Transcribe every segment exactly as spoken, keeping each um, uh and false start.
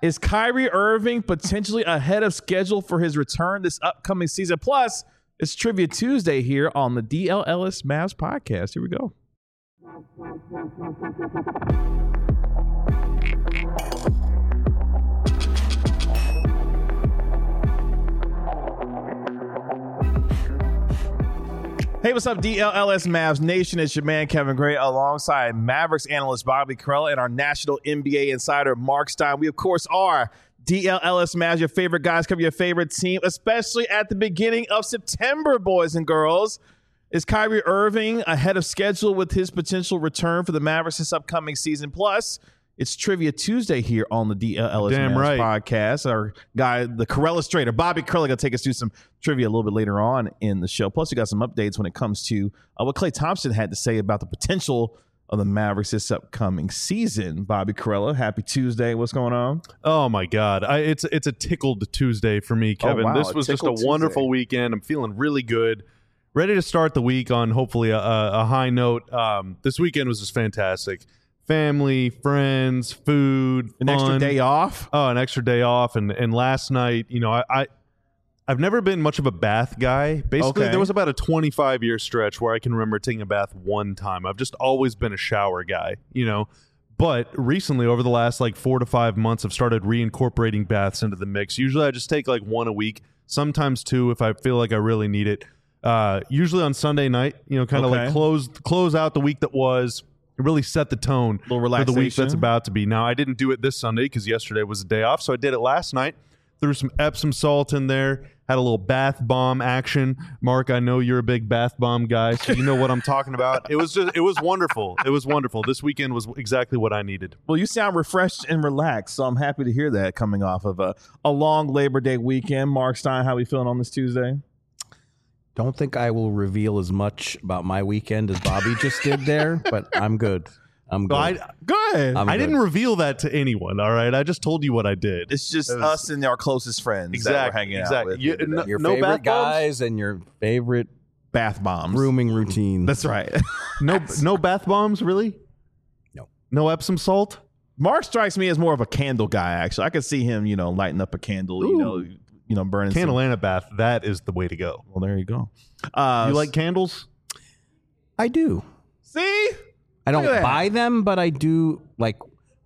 Is Kyrie Irving potentially ahead of schedule for his return this upcoming season? Plus, it's Trivia Tuesday here on the D L Ellis Mavs podcast. Here we go. Hey, what's up, D L L S Mavs Nation? It's your man, Kevin Gray, alongside Mavericks analyst Bobby Karalla and our national N B A insider, Mark Stein. We, of course, are D L L S Mavs, your favorite guys, cover your favorite team, especially at the beginning of September, boys and girls. Is Kyrie Irving ahead of schedule with his potential return for the Mavericks this upcoming season? Plus, it's Trivia Tuesday here on the D L L S Damn Mavs right. podcast. Our guy, the Karalla Strader, Bobby Karalla, going to take us through some trivia a little bit later on in the show. Plus, we got some updates when it comes to uh, what Klay Thompson had to say about the potential of the Mavericks this upcoming season. Bobby Karalla, happy Tuesday. What's going on? Oh my God, I, it's it's a tickled Tuesday for me, Kevin. Oh, wow, this a was just a tickled wonderful Tuesday. weekend. I'm feeling really good, ready to start the week on hopefully a, a, a high note. Um, this weekend was just fantastic. Family, friends, food, An fun. extra day off? Oh, an extra day off, and and last night, you know, I. I I've never been much of a bath guy. Basically, Okay. there was about a twenty-five year stretch where I can remember taking a bath one time. I've just always been a shower guy, you know. But recently, over the last like four to five months, I've started reincorporating baths into the mix. Usually, I just take like one a week, sometimes two if I feel like I really need it. Uh, usually on Sunday night, you know, kind of Okay. like close close out the week that was. It really set the tone Little for the week relaxation. that's about to be. Now, I didn't do it this Sunday because yesterday was a day off, so I did it last night. Threw some Epsom salt in there, had a little bath bomb action. Mark, I know you're a big bath bomb guy, so you know what I'm talking about. It was just, it was wonderful. It was wonderful. This weekend was exactly what I needed. Well, you sound refreshed and relaxed, so I'm happy to hear that coming off of a, a long Labor Day weekend. Mark Stein, how we feeling on this Tuesday? Don't think I will reveal as much about my weekend as Bobby just did there, but I'm good. I'm good. So I, Good. I'm I good. didn't reveal that to anyone, all right? I just told you what I did. It's just It was- us and our closest friends that Exactly, we're hanging exactly. out with. You- here today. no- Your no favorite bath bombs? guys and your favorite Bath bombs. grooming routine. That's right. no, no bath bombs, really? No. No Epsom salt? Mark strikes me as more of a candle guy, actually. I could see him, you know, lighting up a candle, you Ooh. know, you know, burning Candle some. and a bath. That is the way to go. Well, there you go. Uh, You like candles? I do. See? I Look at don't that. buy them, but I do like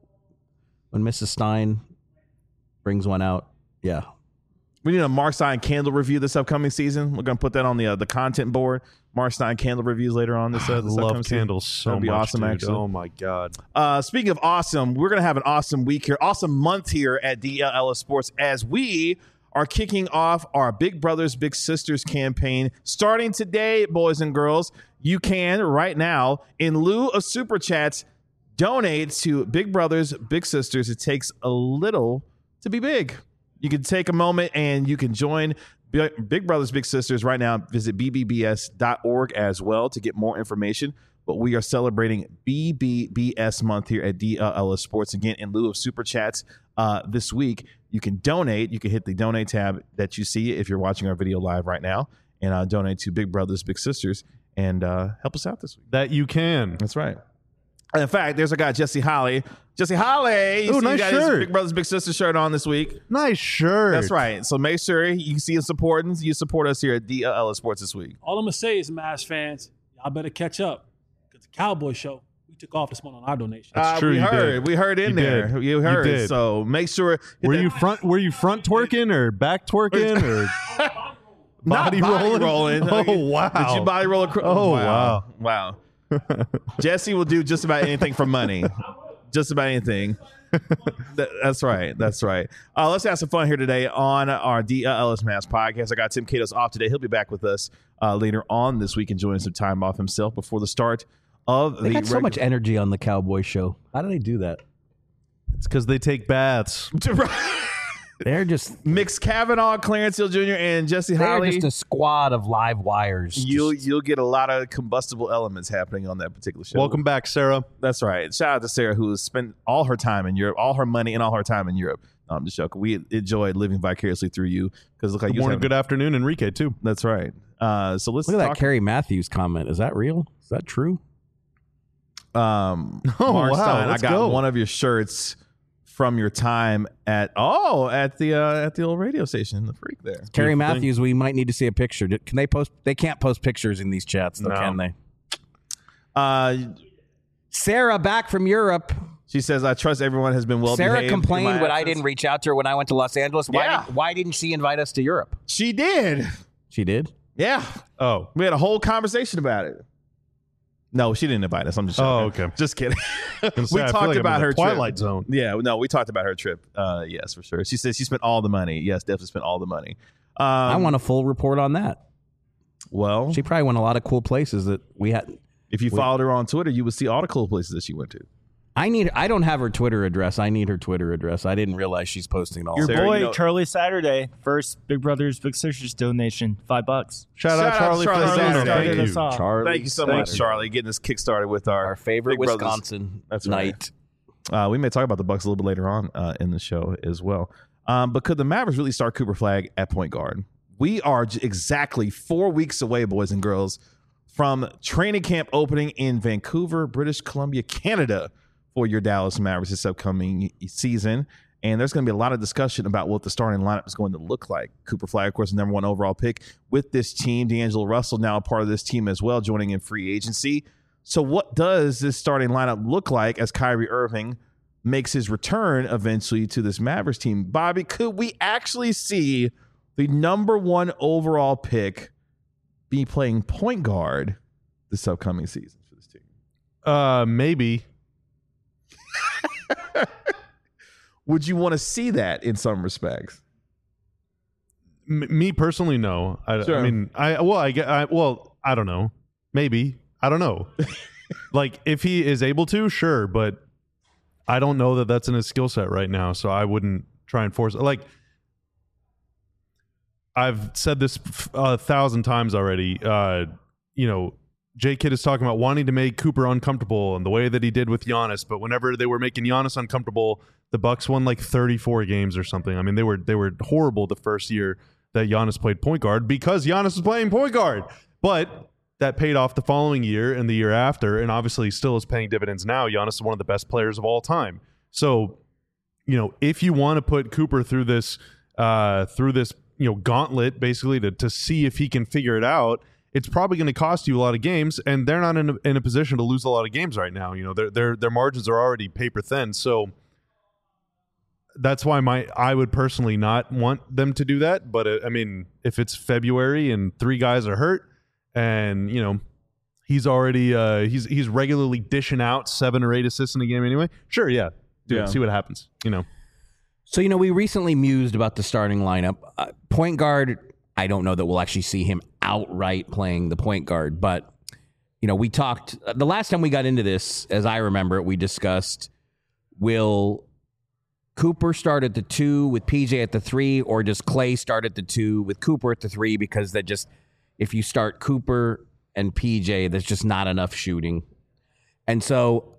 when Missus Stein brings one out. Yeah. We need a Mark Stein candle review this upcoming season. We're going to put that on the uh, the content board. Mark Stein candle reviews later on this, uh, I this love upcoming season. candles so That'd be much, awesome, dude. actually. Oh my God. Uh, speaking of awesome, we're going to have an awesome week here, awesome month here at D L L S Sports as we are kicking off our Big Brothers Big Sisters campaign. Starting today, boys and girls, you can right now, in lieu of Super Chats, donate to Big Brothers Big Sisters. It takes a little to be big. You can take a moment and you can join Big Big Brothers Big Sisters right now. Visit b b b s dot org as well to get more information. But we are celebrating B B B S month here at D L L S Sports. Again, in lieu of Super Chats uh, this week, you can donate. You can hit the donate tab that you see if you're watching our video live right now and uh, donate to Big Brothers Big Sisters and uh, help us out this week. That you can. That's right. In fact, there's a guy, Jesse Holly. Jesse Holly. You Ooh, see nice he got his shirt. Big Brothers Big Sisters shirt on this week. Nice shirt. That's right. So make sure you see us supporting. You support us here at D L L S Sports this week. All I'm gonna say is, Mavs fans, y'all better catch up because the Cowboy Show we took off this month on our donation. That's Uh, true, We you heard. did. We heard in You there. did. You You heard. did. So make sure. hit Were that- you front? Were you front twerking or back twerking or Not body body rolling? rolling? Oh wow! Did you body roll across? Oh, wow. Wow. Jesse will do just about anything for money. Just about anything. That- that's right. That's right. Uh, let's have some fun here today on our D L L S Mavs podcast. I got Tim Catos off today. He'll be back with us uh, later on this week, enjoying some time off himself before the start of They the got so regu- much energy on the Cowboy Show. How do they do that? It's because they take baths. They're just Mix Kavanaugh, Clarence Hill Junior, and Jesse they're Holly. just a squad of live wires. You'll Just- you'll get a lot of combustible elements happening on that particular show. Welcome back, Sarah. That's right. Shout out to Sarah, who has spent all her time in Europe, all her money and all her time in Europe. No, I'm just joking. We enjoyed living vicariously through you because look like Good you. morning, good afternoon, Enrique too. That's right. Uh, so let's Look at talk. that Kerry Matthews comment. Is that real? Is that true? Um, Oh, Mark wow. Stein, I Let's got go. one of your shirts from your time at oh at the uh, at the old radio station, the Freak there. Carrie Good Matthews, we might need to see a picture. Can they post? They can't post pictures in these chats, though, No. can they? Uh, Sarah back from Europe. she says, "I trust everyone has been well Sarah behaved in complained my when I absence." didn't reach out to her when I went to Los Angeles. Why, Yeah. did, why didn't she invite us to Europe? She did. She did. Yeah, Oh, we had a whole conversation about it. No, she didn't invite us. I'm just Oh, joking. okay. Just kidding. gonna we say, I feel talked like I'm about in the her Twilight trip. Zone. Yeah, no, we talked about her trip. Uh, yes, for sure. She said she spent all the money. Yes, definitely spent all the money. Um, I want a full report on that. Well, She probably went a lot of cool places that we had. if you followed her on Twitter, you would see all the cool places that she went to. I need. I don't have her Twitter address. I need her Twitter address. I didn't realize she's posting all. Your Sarah, boy you know- Charlie Saturday, first Big Brothers Big Sisters donation, five bucks. shout, Shout out out Charlie, Charlie for the Saturday. donor. Started Thank you. us off. Charlie, Thank you so thank much, you. Charlie, getting us kickstarted with our, Our favorite Big Brothers. Wisconsin That's right. night. Uh, we may talk about the Bucks a little bit later on uh, in the show as well. Um, but could the Mavericks really start Cooper Flagg at point guard? We are j- exactly four weeks away, boys and girls, from training camp opening in Vancouver, British Columbia, Canada, for your Dallas Mavericks this upcoming season. And there's going to be a lot of discussion about what the starting lineup is going to look like. Cooper Flagg, of course, the number one overall pick with this team. D'Angelo Russell now a part of this team as well, joining in free agency. So what does this starting lineup look like as Kyrie Irving makes his return eventually to this Mavericks team? Bobby, could we actually see the number one overall pick be playing point guard this upcoming season for this team? Uh, maybe. Would you want to see that in some respects? M- me personally, no. I, Sure. I mean, I well, I get. I, well, I don't know. Maybe. I don't know. Like, if he is able to, sure, but I don't know that that's in his skill set right now. So I wouldn't try and force. Like, I've said this a thousand times already. Uh, you know, J Kidd is talking about wanting to make Cooper uncomfortable and the way that he did with Giannis. But whenever they were making Giannis uncomfortable, the Bucks won like thirty-four games or something. I mean, they were they were horrible the first year that Giannis played point guard because Giannis was playing point guard. But that paid off the following year and the year after, and obviously still is paying dividends now. Giannis is one of the best players of all time. So, you know, if you want to put Cooper through this uh, through this you know gauntlet, basically to to see if he can figure it out, it's probably going to cost you a lot of games, and they're not in a, in a position to lose a lot of games right now. You know, their their their margins are already paper thin, so that's why my I would personally not want them to do that. But uh, I mean, if it's February and three guys are hurt, and you know he's already uh, he's he's regularly dishing out seven or eight assists in a game anyway, sure, yeah, do Yeah. it, see what happens. You know, So, you know, we recently mused about the starting lineup. Uh, point guard, I don't know that we'll actually see him outright playing the point guard, but, you know, we talked, uh, the last time we got into this, as I remember it, we discussed, will Cooper start at the two with P J at the three, or does Clay start at the two with Cooper at the three? Because that just, if you start Cooper and P J, there's just not enough shooting. And so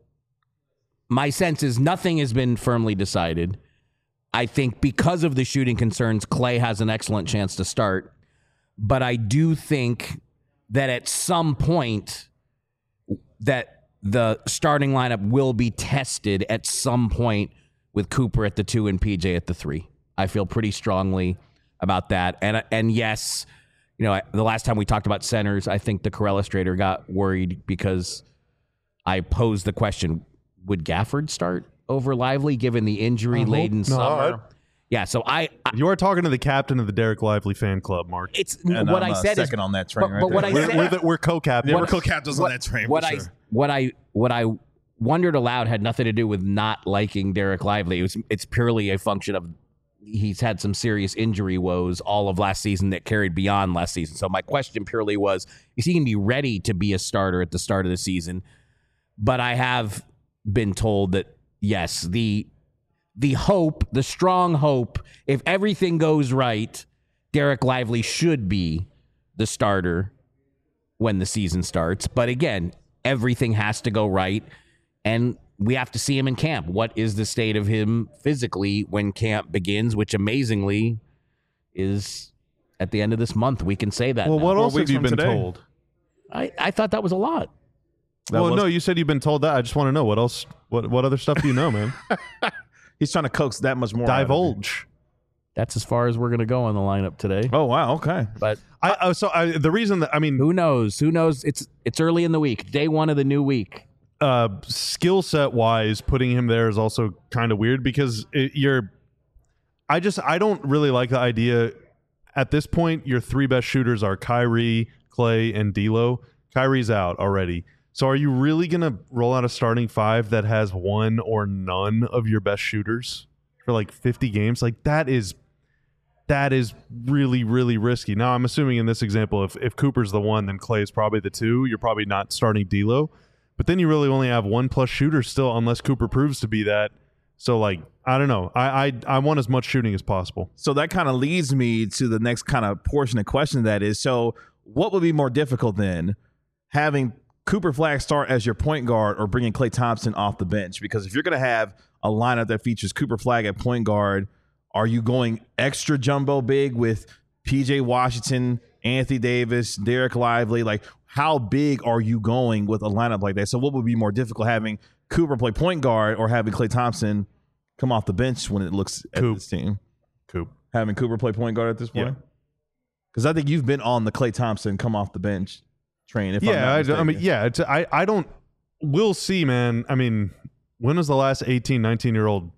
my sense is nothing has been firmly decided. I think because of the shooting concerns, Clay has an excellent chance to start. But I do think that at some point that the starting lineup will be tested at some point with Cooper at the two and P J at the three. I feel pretty strongly about that. And and yes, you know, the last time we talked about centers, I think the Corellistrator got worried because I posed the question, would Gafford start over Lively given the injury-laden summer? not. Yeah, so I, I you are talking to the captain of the Derek Lively fan club, Mark. it's And what I'm, I uh, said is second on that train but, right but there. what I We're, said we're, the, we're co-captain. Yeah, we're co-captains on that train. what for I sure. what I what I wondered aloud had nothing to do with not liking Derek Lively. It was, it's purely a function of he's had some serious injury woes all of last season that carried beyond last season. So my question purely was, is he going to be ready to be a starter at the start of the season? But I have been told that yes, the the hope, the strong hope, if everything goes right, Derek Lively should be the starter when the season starts. But again, everything has to go right, and we have to see him in camp. What is the state of him physically when camp begins, which amazingly is at the end of this month. We can say that. well, now. what Four else have weeks you from been today. told? I, I thought that was a lot. That well, was- no, you said you've been told that. I just want to know what else. What what other stuff do you know, man? he's trying to coax that much more. out of it. Divulge. That's as far as we're gonna go on the lineup today. Oh wow, okay. But I uh, so I, the reason that I mean, who knows? Who knows? It's it's early in the week, day one of the new week. uh, skill set wise, putting him there is also kind of weird because it, you're. I just I don't really like the idea. At this point, your three best shooters are Kyrie, Clay, and D'Lo. Kyrie's out already. So are you really going to roll out a starting five that has one or none of your best shooters for like fifty games? Like that is that is really, really risky. Now, I'm assuming in this example, if, if Cooper's the one, then Clay is probably the two. You're probably not starting D'Lo. But then you really only have one plus shooter still unless Cooper proves to be that. So, like, I don't know. I I, I want as much shooting as possible. So that kind of leads me to the next kind of portion of question that is, so what would be more difficult then, having Cooper Flagg start as your point guard or bringing Klay Thompson off the bench? Because if you're going to have a lineup that features Cooper Flagg at point guard, are you going extra jumbo big with P J Washington, Anthony Davis, Derek Lively? Like, how big are you going with a lineup like that? So what would be more difficult, having Cooper play point guard or having Klay Thompson come off the bench when it looks at Coop. this team? Coop. Having Cooper play point guard at this point? Yeah. Because I think you've been on the Klay Thompson come off the bench train. If I'm Yeah, not I, mistaken. I mean, yeah. It's, I, I don't. We'll see, man. I mean, when was the last eighteen, nineteen year old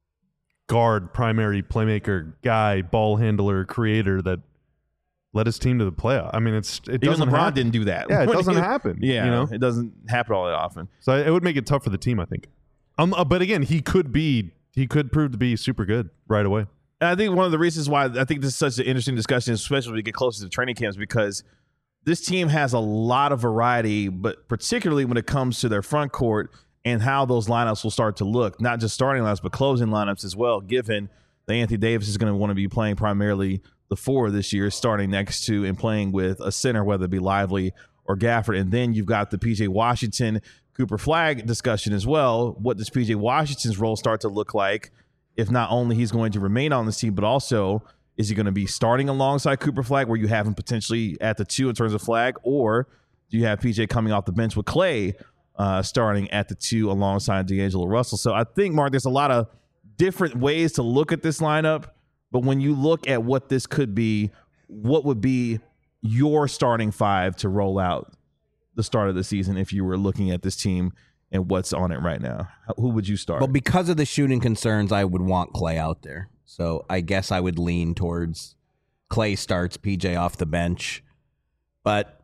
guard, primary playmaker, guy, ball handler, creator that led his team to the playoff? I mean, it's it Even doesn't LeBron happen. didn't do that. Yeah, it When doesn't he- happen. Yeah, you know. it doesn't happen all that often. So it would make it tough for the team, I think. Um, uh, but again, he could be. He could prove to be super good right away. And I think one of the reasons why I think this is such an interesting discussion, especially when we get closer to training camps, because this team has a lot of variety, but particularly when it comes to their front court and how those lineups will start to look, not just starting lineups, but closing lineups as well, given that Anthony Davis is going to want to be playing primarily the four this year, starting next to and playing with a center, whether it be Lively or Gafford. And then you've got the P J Washington, Cooper Flagg discussion as well. What does P J Washington's role start to look like if not only he's going to remain on this team, but also is he going to be starting alongside Cooper Flagg, where you have him potentially at the two in terms of Flagg, or do you have P J coming off the bench with Clay uh, starting at the two alongside D'Angelo Russell? So I think, Mark, there's a lot of different ways to look at this lineup, but when you look at what this could be, what would be your starting five to roll out the start of the season if you were looking at this team and what's on it right now? Who would you start? Well, because of the shooting concerns, I would want Clay out there. So I guess I would lean towards Clay starts, P J off the bench. But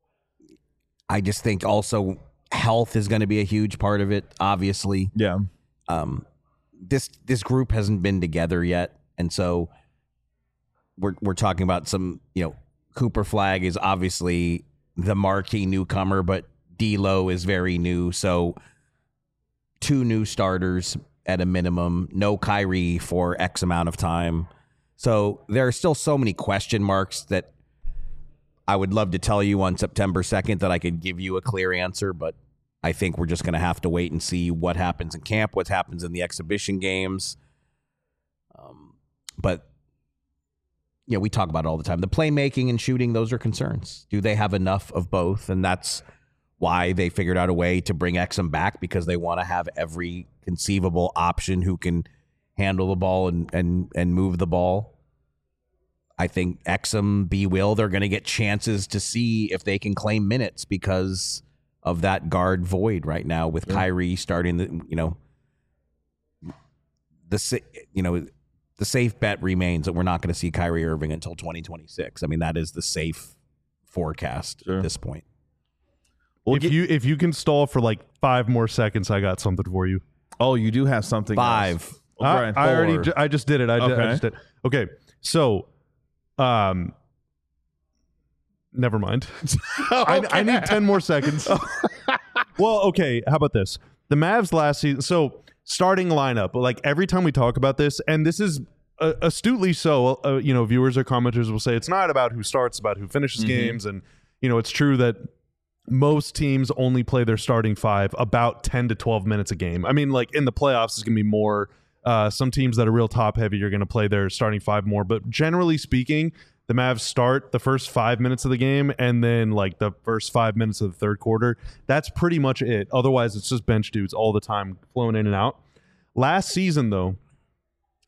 I just think also health is going to be a huge part of it, obviously. Yeah. Um, this this group hasn't been together yet, and so we're we're talking about some, you know, Cooper Flagg is obviously the marquee newcomer, but D'Lo is very new, so two new starters at a minimum, no Kyrie for X amount of time. So there are still so many question marks that I would love to tell you on September second that I could give you a clear answer, but I think we're just going to have to wait and see what happens in camp, what happens in the exhibition games. Um, but, you know, we talk about it all the time. The playmaking and shooting, those are concerns. Do they have enough of both? And that's why they figured out a way to bring Exum back, because they want to have every conceivable option who can handle the ball and, and, and move the ball. I think Exum, B. Will, they're going to get chances to see if they can claim minutes because of that guard void right now with yeah. Kyrie starting the, you know, the, you know, the safe bet remains that we're not going to see Kyrie Irving until twenty twenty-six. I mean, that is the safe forecast sure. at this point. Well, if get, you if you can stall for like five more seconds, I got something for you. Oh, you do have something. Five. Else. I, Brian, I already. I just did it. I, okay. did, I just did. Okay. So, um, never mind. okay. I, I need ten more seconds. Well, okay. How about this? The Mavs last season. So starting lineup. Like every time we talk about this, and this is uh, astutely so. Uh, you know, viewers or commenters will say it's not about who starts, it's about who finishes mm-hmm. games, and you know, it's true that most teams only play their starting five about ten to twelve minutes a game. I mean, like in the playoffs, it's going to be more. Uh, some teams that are real top heavy are going to play their starting five more. But generally speaking, the Mavs start the first five minutes of the game and then like the first five minutes of the third quarter. That's pretty much it. Otherwise, it's just bench dudes all the time flowing in and out. Last season, though,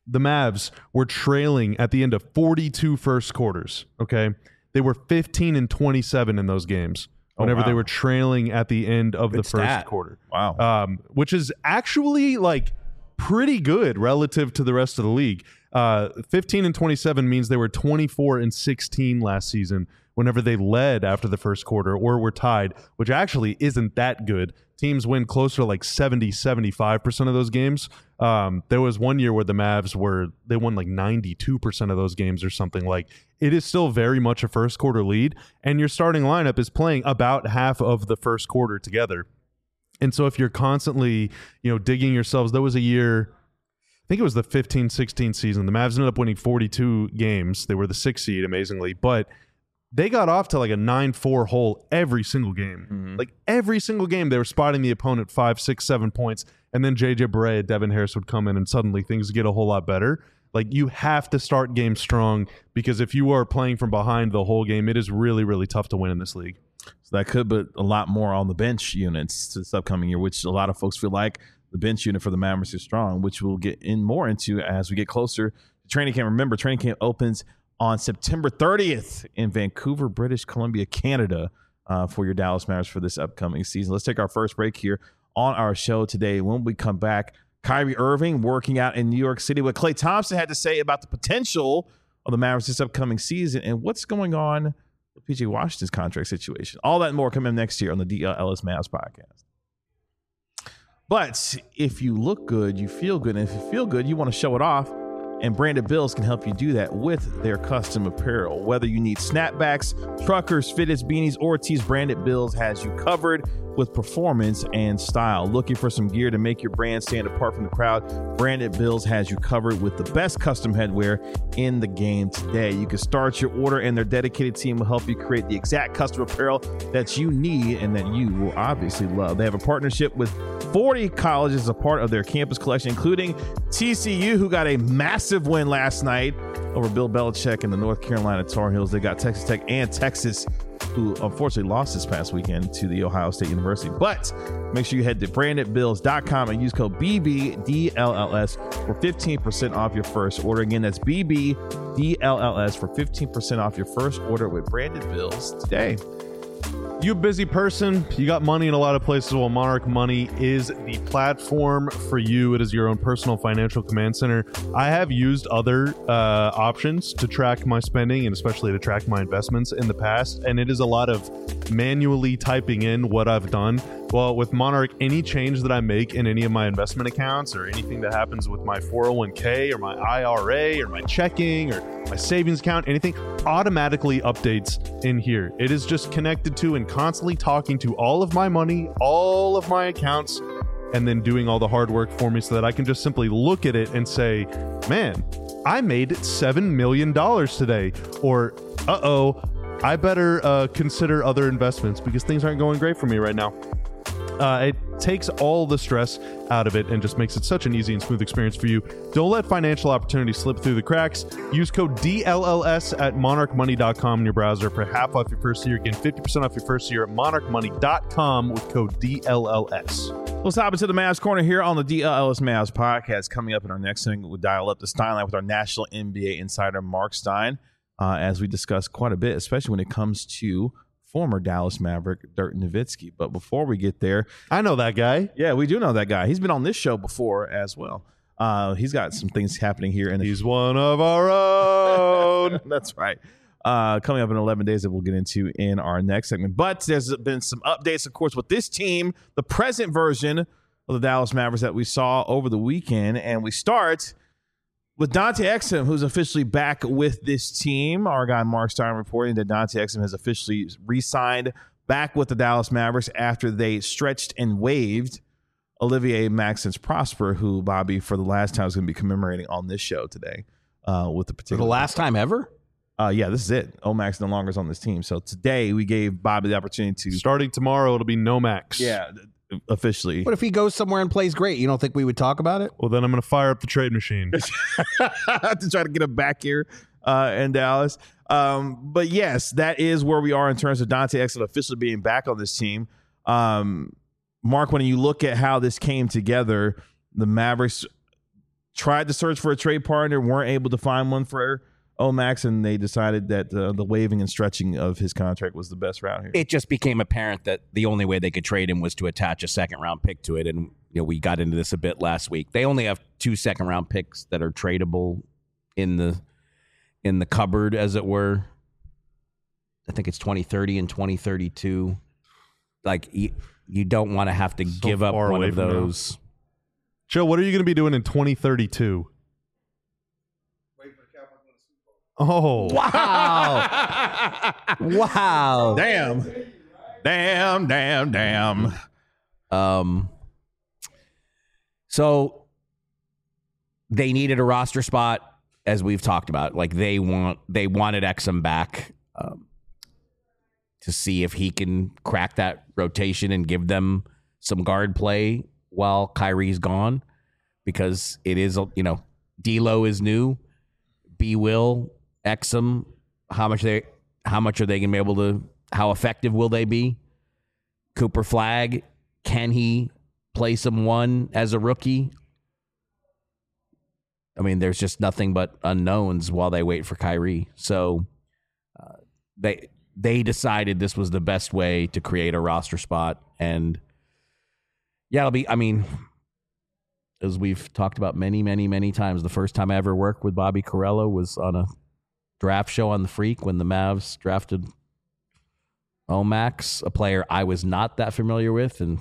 the Mavs were trailing at the end of forty-two first quarters, okay? They were fifteen and twenty-seven in those games whenever wow. they were trailing at the end of Good the first stat. quarter. Wow. Um, which is actually like pretty good relative to the rest of the league. Uh, fifteen and twenty-seven means they were twenty-four and sixteen last season whenever they led after the first quarter or were tied, which actually isn't that good. Teams win closer to like seventy, seventy-five percent of those games. Um, there was one year where the Mavs were, they won like ninety-two percent of those games or something. Like, it is still very much a first quarter lead, and your starting lineup is playing about half of the first quarter together. And so if you're constantly, you know, digging yourselves, there was a year, I think it was the fifteen sixteen season. The Mavs ended up winning forty-two games. They were the sixth seed, amazingly, but they got off to like a nine four hole every single game. Mm-hmm. Like every single game, they were spotting the opponent five, six, seven points, and then J J Barea, Devin Harris would come in, and suddenly things get a whole lot better. Like, you have to start games strong, because if you are playing from behind the whole game, it is really, really tough to win in this league. So that could put a lot more on the bench units this upcoming year, which a lot of folks feel like the bench unit for the Mavericks is strong, which we'll get in more into as we get closer to training camp. Remember, training camp opens on September thirtieth in Vancouver, British Columbia, Canada, uh, for your Dallas Mavericks for this upcoming season. Let's take our first break here on our show today. When we come back, Kyrie Irving working out in New York City, what Klay Thompson had to say about the potential of the Mavericks this upcoming season, and what's going on with P J Washington's contract situation. All that and more coming up next year on the D L Ellis Mavs podcast. But if you look good, you feel good. And if you feel good, you want to show it off. And Branded Bills can help you do that with their custom apparel. Whether you need snapbacks, truckers, fitteds, beanies, or tees, Branded Bills has you covered with performance and style. Looking for some gear to make your brand stand apart from the crowd? Branded Bills has you covered with the best custom headwear in the game today. You can start your order, and their dedicated team will help you create the exact custom apparel that you need and that you will obviously love. They have a partnership with forty colleges as a part of their campus collection, including T C U, who got a massive win last night over Bill Belichick and the North Carolina Tar Heels. They got Texas Tech and Texas, who unfortunately lost this past weekend to the Ohio State University. But make sure you head to branded bills dot com and use code B B D L L S for fifteen percent off your first order. Again, that's B B D L L S for fifteen percent off your first order with Branded Bills today. You a busy person, you got money in a lot of places. Well, Monarch Money is the platform for you. It is your own personal financial command center. I have used other uh, options to track my spending and especially to track my investments in the past, and it is a lot of manually typing in what I've done. Well, with Monarch, any change that I make in any of my investment accounts or anything that happens with my four oh one k or my I R A or my checking or my savings account, anything automatically updates in here. It is just connected to and constantly talking to all of my money, all of my accounts, and then doing all the hard work for me so that I can just simply look at it and say, man, I made seven million dollars today. Or, uh-oh, I better uh, consider other investments because things aren't going great for me right now. Uh, it takes all the stress out of it and just makes it such an easy and smooth experience for you. Don't let financial opportunities slip through the cracks. Use code D L L S at monarch money dot com in your browser for half off your first year. Again, fifty percent off your first year at monarch money dot com with code D L L S. Let's hop into the Mavs Corner here on the D L L S Mavs podcast. Coming up in our next thing, we'll dial up the Stein line with our national N B A insider, Mark Stein, uh, as we discuss quite a bit, especially when it comes to former Dallas Maverick Dirk Nowitzki. But before we get there, I know that guy. Yeah, we do know that guy. He's been on this show before as well. Uh, he's got some things happening here. And he's one of our own. That's right. Uh, coming up in eleven days that we'll get into in our next segment. But there's been some updates, of course, with this team, the present version of the Dallas Mavericks that we saw over the weekend. And we start with Dante Exum, who's officially back with this team. Our guy Mark Stein reporting that Dante Exum has officially re-signed back with the Dallas Mavericks after they stretched and waived Olivier Maxence Prosper, who Bobby, for the last time, is going to be commemorating on this show today. Uh, with the particular for the last time ever? Uh, yeah, this is it. Omax no longer is on this team. So today we gave Bobby the opportunity to... Starting tomorrow, it'll be Nomax. Yeah, officially. But if he goes somewhere and plays great, you don't think we would talk about it? Well, then I'm going to fire up the trade machine to try to get him back here uh, in Dallas. Um, but yes, that is where we are in terms of Dante Exum officially being back on this team. Um, Mark, when you look at how this came together, the Mavericks tried to search for a trade partner, weren't able to find one for Omax, and they decided that uh, the waiving and stretching of his contract was the best route here. It just became apparent that the only way they could trade him was to attach a second round pick to it. And you know, we got into this a bit last week. They only have two second round picks that are tradable in the in the cupboard, as it were. I think it's twenty thirty and twenty thirty-two. Like, you, you don't want to have to So give up far one away of from now. those. Joe, what are you going to be doing in twenty thirty-two? Oh, Wow. Wow. Damn. Damn, damn, damn. Um, so they needed a roster spot, as we've talked about. Like, they want they wanted Exum back um, to see if he can crack that rotation and give them some guard play while Kyrie's gone, because it is, you know, D'Lo is new, B Will, Exum. How much they how much are they gonna be able to? How effective will they be? Cooper Flagg, can he play some one as a rookie? I mean, there's just nothing but unknowns while they wait for Kyrie. So uh, they they decided this was the best way to create a roster spot. And yeah, it'll be, I mean, as we've talked about many, many, many times, the first time I ever worked with Bobby Carello was on a draft show on The Freak when the Mavs drafted Omax, a player I was not that familiar with, and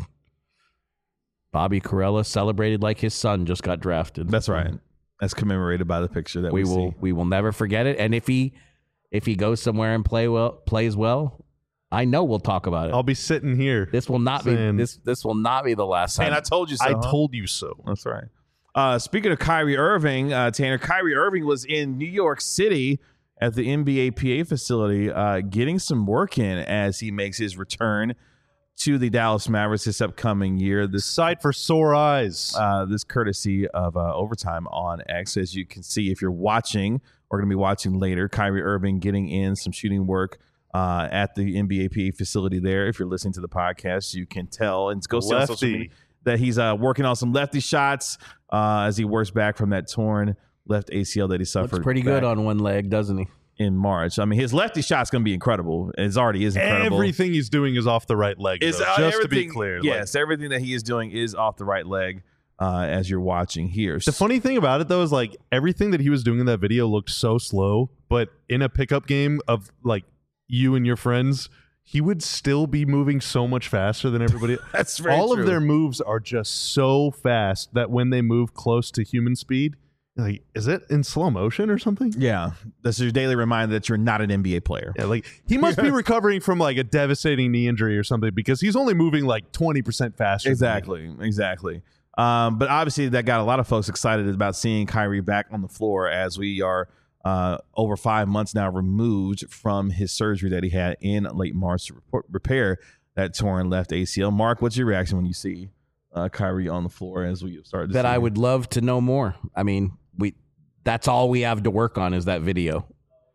Bobby Carello celebrated like his son just got drafted. That's right. That's commemorated by the picture that we, we will see. we will never forget it. And if he if he goes somewhere and play well plays well, I know we'll talk about it. I'll be sitting here. This will not saying, be this this will not be the last time. And I told you so. I huh? told you so. That's right. Uh, speaking of Kyrie Irving, uh, Tanner, Kyrie Irving was in New York City at the N B A P A facility uh, getting some work in as he makes his return to the Dallas Mavericks this upcoming year. This Sight for sore eyes. uh, this courtesy of uh, Overtime on X. As you can see, if you're watching or going to be watching later, Kyrie Irving getting in some shooting work uh, at the N B A P A facility there. If you're listening to the podcast, you can tell and go see on social media Lefty. that he's uh, working on some lefty shots uh, as he works back from that torn left A C L that he suffered. Looks pretty good back on one leg, doesn't he? in March. I mean, his lefty shot's going to be incredible. It already is incredible. Everything he's doing is off the right leg, Is, though, uh, just to be everything- clear. Like, Yes, everything that he is doing is off the right leg uh, as you're watching here. the funny thing about it, though, is like everything that he was doing in that video looked so slow, but in a pickup game of like you and your friends, he would still be moving so much faster than everybody. That's very All true. of their moves are just so fast that when they move close to human speed, you're like, is it in slow motion or something? Yeah, that's your daily reminder that you're not an N B A player. Yeah, like he must be recovering from like a devastating knee injury or something because he's only moving like twenty percent faster. than me. Exactly, exactly. Um, but obviously, that got a lot of folks excited about seeing Kyrie back on the floor as we are uh, over five months now removed from his surgery that he had in late March to report, repair that torn left A C L. Mark, what's your reaction when you see uh, Kyrie on the floor as we start to That see I him? would love to know more. I mean, we that's all we have to work on is that video.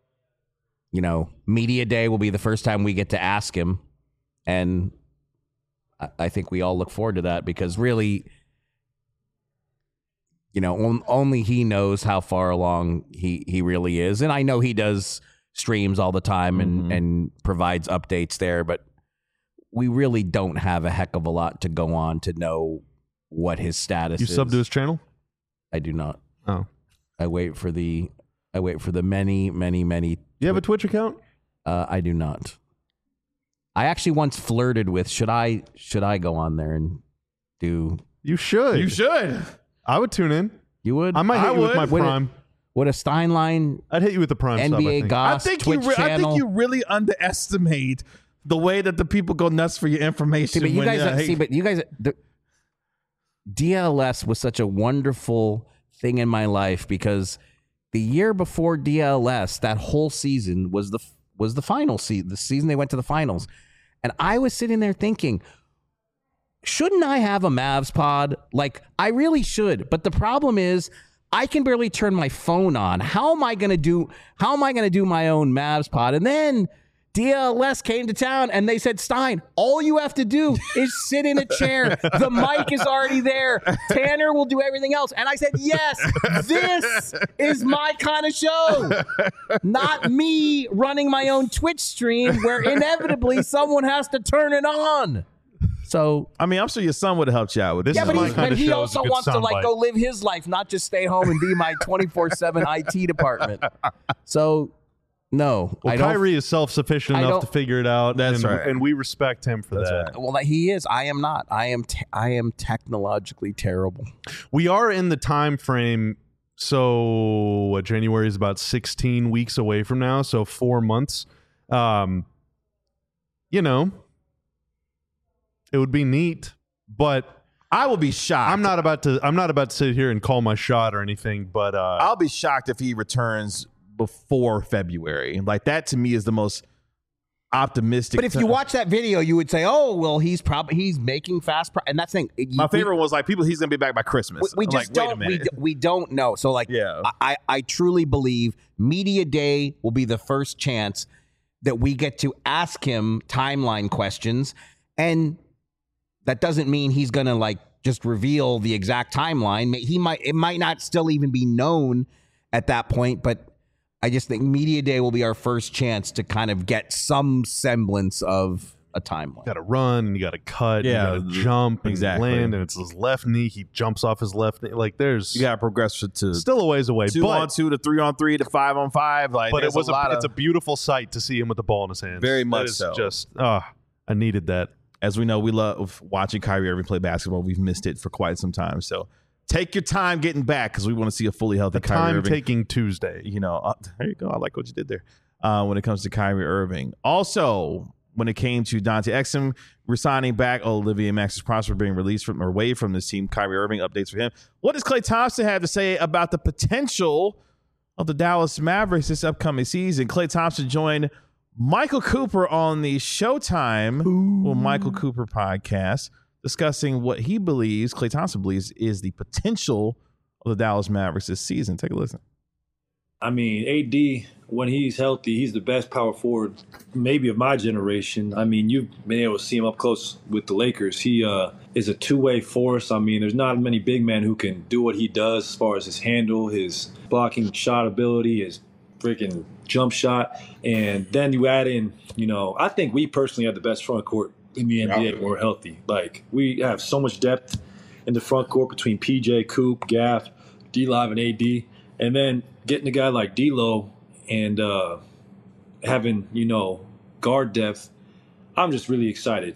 You know, media day will be the first time we get to ask him, and I, I think we all look forward to that because really, you know, on, only he knows how far along he he really is, and I know he does streams all the time and Mhm. and provides updates there, but we really don't have a heck of a lot to go on to know what his status You is. sub to his channel? I do not. Oh, I wait for the I wait for the many, many, many. you have a Twitch account? Uh, I do not. I actually once flirted with should I should I go on there and do You should. You should. I would tune in. you would I might hit I you with would. my Would it- Prime. would a Steinline I'd hit you with the Prime N sub, B I A think. Goss I think you. Twitch Re- I channel? think you really underestimate the way that the people go nuts for your information. See, but you when, guys, uh, hey- see, but you guys, the, D L S was such a wonderful thing in my life because the year before D L S, that whole season was the was the final season, the season they went to the finals, and I was sitting there thinking, shouldn't I have a Mavs pod? Like, I really should, but the problem is, I can barely turn my phone on. How am I gonna do? How am I gonna do my own Mavs pod? And then D L S came to town and they said, Stein, all you have to do is sit in a chair. The mic is already there. Tanner will do everything else. And I said, yes, this is my kind of show. Not me running my own Twitch stream where inevitably someone has to turn it on. So I mean, I'm sure your son would have helped you out with this. yeah, but, my he, kind but of he show is a also good wants to like soundbite. go live his life, not just stay home and be my twenty-four seven I T department. So no, Well, I don't. Kyrie is self-sufficient I enough don't- to figure it out. That's and, right. and we respect him for That's that. right. Well, he is. I am not. I am. Te- I am technologically terrible. We are in the time frame. So what, January is about sixteen weeks away from now. So four months. Um, you know, it would be neat, but I will be shocked. I'm not about to. I'm not about to sit here and call my shot or anything. But uh, I'll be shocked if he returns before February. Like that to me is the most optimistic. But if you time. watch that video, you would say, "Oh, well, he's probably he's making fast." Pro-. And that's the thing. You- my we- favorite was like people. He's gonna be back by Christmas. We, we I'm just like, wait a don't. We, minute. d- we don't know. So like, Yeah. I I truly believe Media Day will be the first chance that we get to ask him timeline questions, and that doesn't mean he's gonna like just reveal the exact timeline. He might. It might not still even be known at that point, but. I just think Media Day will be our first chance to kind of get some semblance of a timeline. you got to run and you got to cut. Yeah, you got to jump and exactly. land, and it's his left knee. He jumps off his left knee. Like there's You got to progress to, to still a ways away. two but on two to three on three to five on five. Like, but it there's was a a, lot it's a of. beautiful sight to see him with the ball in his hands. Very That much is so. Just ah, I needed that. As we know, we love watching Kyrie Irving play basketball. We've missed it for quite some time. So take your time getting back because we want to see a fully healthy The Kyrie time Irving. taking Tuesday. you know, uh, there you go. I like what you did there. Uh, when it comes to Kyrie Irving, also when it came to Dante Exum resigning back, Olivia Maxis Prosper being released from or away from this team, Kyrie Irving updates for him. What does Klay Thompson have to say about the potential of the Dallas Mavericks this upcoming season? Klay Thompson joined Michael Cooper on the Showtime well, Michael Cooper podcast, discussing what he believes, Klay Thompson believes, is the potential of the Dallas Mavericks this season. Take a listen. I mean, A D, when he's healthy, he's the best power forward maybe of my generation. I mean, you've been able to see him up close with the Lakers. He uh, is a two-way force. I mean, there's not many big men who can do what he does as far as his handle, his blocking shot ability, his freaking jump shot. And then you add in, you know, I think we personally have the best front court in the N B A when we're healthy. Like, we have so much depth in the front court between P J, Coop, Gaff, D-Live, and A D. And then getting a guy like D'Lo and uh, having, you know, guard depth, I'm just really excited.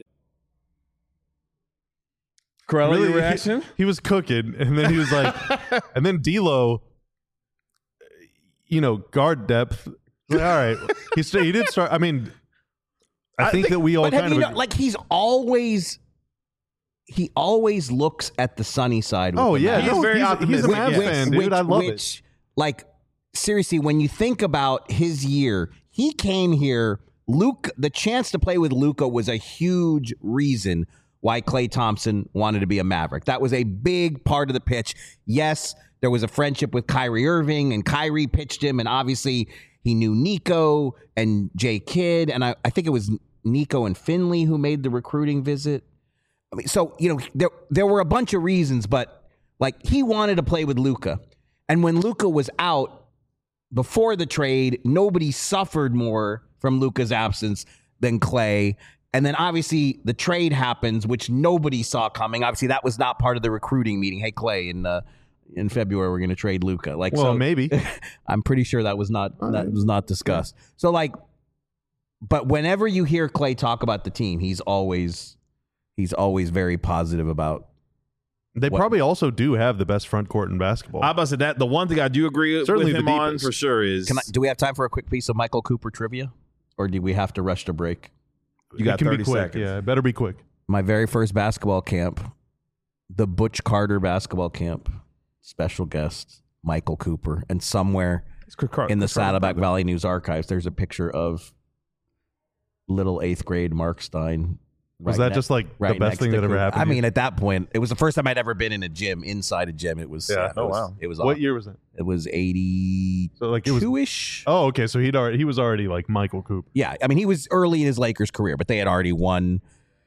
Corella, Really, your he- reaction? He, was cooking, and then he was like, and then D'Lo, you know, guard depth. Like, all right, he st- he did start. I mean, I, think, that we all But have kind you of know, like he's always he always looks at the sunny side. With Oh the yeah, He's Mavs. no, very he's, optimistic, He's a Mavs yes. fan, dude. Which, I love which, like, seriously, when you think about his year, he came here. Luke, the chance to play with Luka was a huge reason why Klay Thompson wanted to be a Maverick. That was a big part of the pitch. Yes, there was a friendship with Kyrie Irving, and Kyrie pitched him, and obviously he knew Nico and Jay Kidd, and I, I think it was Nico and Finley who made the recruiting visit. I mean, so, you know, there there were a bunch of reasons, but like he wanted to play with Luka. And when Luka was out before the trade, nobody suffered more from Luka's absence than Klay. And then obviously the trade happens, which nobody saw coming. Obviously, that was not part of the recruiting meeting. Hey, Klay, in uh, in February we're going to trade Luka. Like, Well, so, maybe. I'm pretty sure that was not that was not discussed. So, like, but whenever you hear Klay talk about the team, he's always he's always very positive about. They What? probably also do have the best front court in basketball. I about to say that the one thing I do agree Certainly with him the on deepest. for sure is Can I, do we have time for a quick piece of Michael Cooper trivia, or do we have to rush to break? you got it can thirty be quick. seconds. Yeah, it better be quick. My very first basketball camp, the Butch Carter basketball camp, special guest Michael Cooper, and somewhere It's Chris Carter- in the Chris Carter, Saddleback by the way. Valley News archives, there's a picture of little eighth grade Mark Stein Was right that ne- just like right the best next thing to that ever Coop. happened? I to you? mean, at that point, it was the first time I'd ever been in a gym, inside a gym. It was, Yeah. it Oh, was, wow. It was what awesome. year was it? It was eighty-two-ish. So like it was. Oh, okay. So he'd already he was already like Michael Coop. Yeah, I mean, he was early in his Lakers career, but they had already won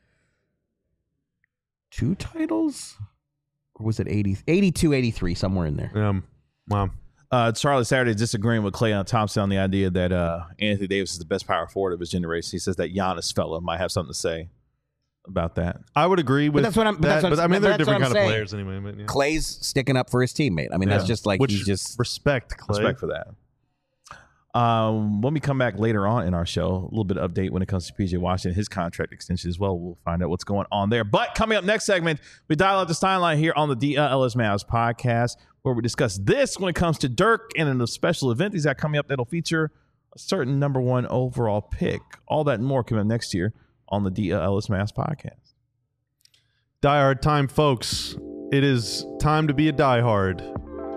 two titles? Or was it eighty, eighty-two, eighty-three, somewhere in there? Um, wow. Uh, Charlie Saturday is disagreeing with Klay Thompson on the idea that uh, Anthony Davis is the best power forward of his generation. He says that Giannis fella might have something to say about that. I would agree with that's what I'm- but that, that's what I'm- but I mean, but they're that's what different I'm kind of saying. players anyway. But yeah. Clay's sticking up for his teammate. I mean, that's Yeah. just like Which he just respect, Clay. Respect for that. Um, when we come back later on in our show, a little bit of update when it comes to P J Washington, his contract extension as well. We'll find out what's going on there. But coming up next segment, we dial up the Steinline here on the D L S Mavs podcast, where we discuss this when it comes to Dirk and in a special event he's got coming up that'll feature a certain number one overall pick. All that and more coming up next year on the D L S Mavs podcast. Diehard time, folks. It is time to be a diehard.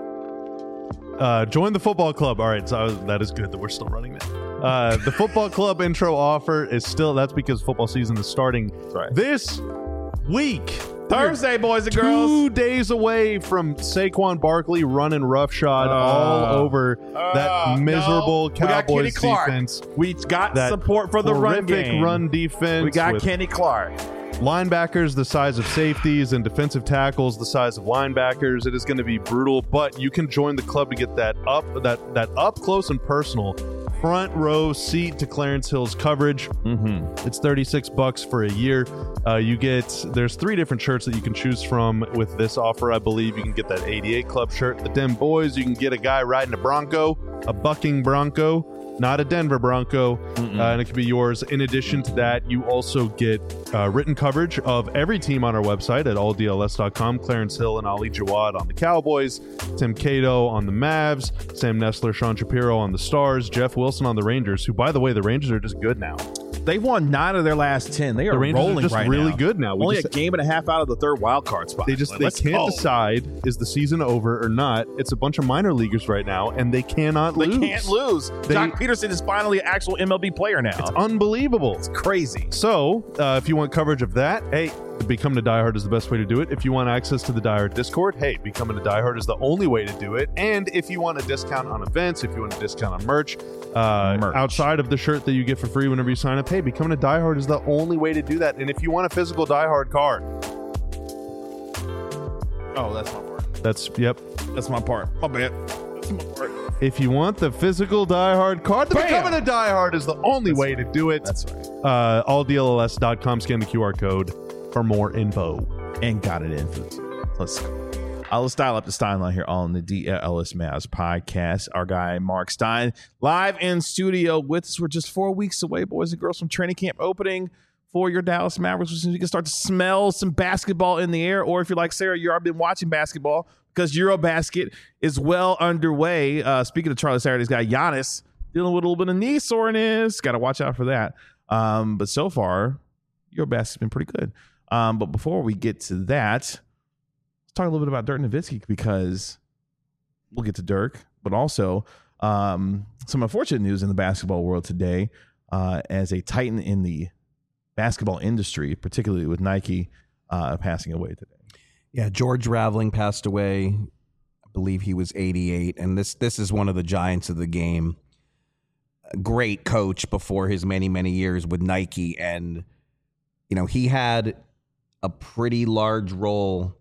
Uh, join the football club. All right, so I was, that is good that we're still running that. Uh, the football club intro offer is still, that's because football season is starting right. this week. Thursday, boys and Two girls. days away from Saquon Barkley running roughshod Uh, all over uh, that miserable no. We got Kenny Cowboys Clark. defense. We got That support for the run horrific game. run defense. We got with Kenny Clark. linebackers the size of safeties and defensive tackles the size of linebackers. It is going to be brutal, but you can join the club to get that up that that up close and personal front row seat to Clarence Hill's coverage. Mm-hmm. It's thirty-six bucks for a year. Uh, you get there's three different shirts that you can choose from with this offer. I believe you can get that eighty-eight Club shirt, the Dem Boys. You can get a guy riding a Bronco, a bucking Bronco, not a Denver Bronco, uh, and it can be yours. In addition to that, you also get uh, written coverage of every team on our website at all D L S dot com. Clarence Hill and Ali Jawad on the Cowboys, Tim Cato on the Mavs, Sam Nestler, Sean Shapiro on the Stars, Jeff Wilson on the Rangers, who, by the way, the Rangers are just good now. They won nine of their last ten. They are The Rangers rolling are just right really now. good now. We Only just- a game and a half out of the third wild card spot. They just Like, they let's can't go. decide, is the season over or not. It's a bunch of minor leaguers right now, and they cannot They lose. can't lose. They- Jock Peterson is finally an actual M L B player now. It's unbelievable. It's crazy. So, uh, if you want coverage of that, hey, becoming a diehard is the best way to do it. If you want access to the diehard Discord, hey, becoming a diehard is the only way to do it. And if you want a discount on events, if you want a discount on merch, uh, Merch. outside of the shirt that you get for free whenever you sign up, hey, becoming a diehard is the only way to do that. And if you want a physical diehard card, Oh, that's my part. that's yep. That's my part. My bad. That's my part. If you want the physical diehard card, then Bam! becoming a diehard is the only way to do it. That's right. Uh, all D L S dot com. Scan the Q R code for more info. And got it in for the team. Let's go. Uh, let's dial up the Steinline here on the D L S Mavs podcast. Our guy, Mark Stein, live in studio with us. We're just four weeks away, boys and girls, from training camp opening for your Dallas Mavericks, which means you can start to smell some basketball in the air. Or if you're like Sarah, you've already been watching basketball because Eurobasket is well underway. Uh, speaking of Charlie Saturday's guy, Giannis, dealing with a little bit of knee soreness. Got to watch out for that. Um, but so far, Eurobasket's been pretty good. Um, but before we get to that, let's talk a little bit about Dirk Nowitzki, because we'll get to Dirk, but also um, some unfortunate news in the basketball world today uh, as a titan in the basketball industry, particularly with Nike, uh, passing away today. Yeah, George Raveling passed away. I believe he was eighty-eight, and this this is one of the giants of the game. A great coach before his many many years with Nike, and you know he had a pretty large role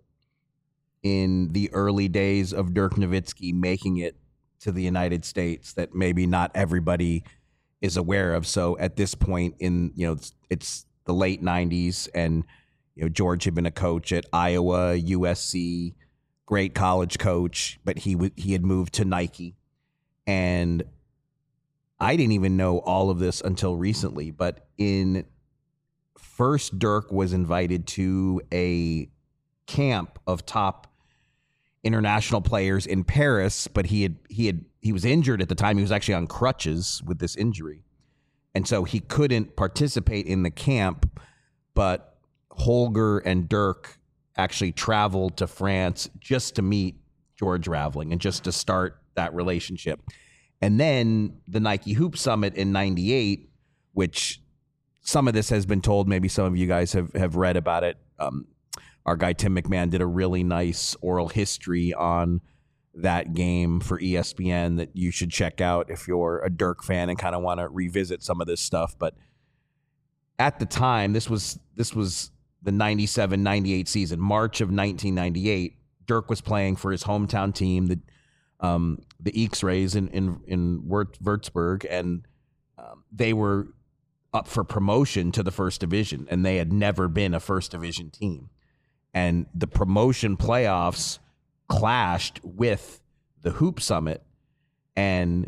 in the early days of Dirk Nowitzki making it to the United States that maybe not everybody is aware of. So at this point in, you know, it's, it's the late nineties, and, you know, George had been a coach at Iowa, U S C, great college coach, but he w- he had moved to Nike. And I didn't even know all of this until recently, but in first Dirk was invited to a camp of top international players in Paris, but he had he had he was injured at the time. He was actually on crutches with this injury, and so he couldn't participate in the camp. But Holger and Dirk actually traveled to France just to meet George Raveling and just to start that relationship. And then the Nike Hoop Summit in ninety-eight, which some of this has been told. Maybe some of you guys have, have read about it. Um, our guy Tim McMahon did a really nice oral history on that game for E S P N that you should check out if you're a Dirk fan and kind of want to revisit some of this stuff. But at the time, this was this was the ninety-seven ninety-eight season, March of nineteen ninety-eight. Dirk was playing for his hometown team, the um, the X-Rays in in in Würzburg, and um, they were up for promotion to the first division, and they had never been a first division team. And the promotion playoffs clashed with the Hoop Summit, and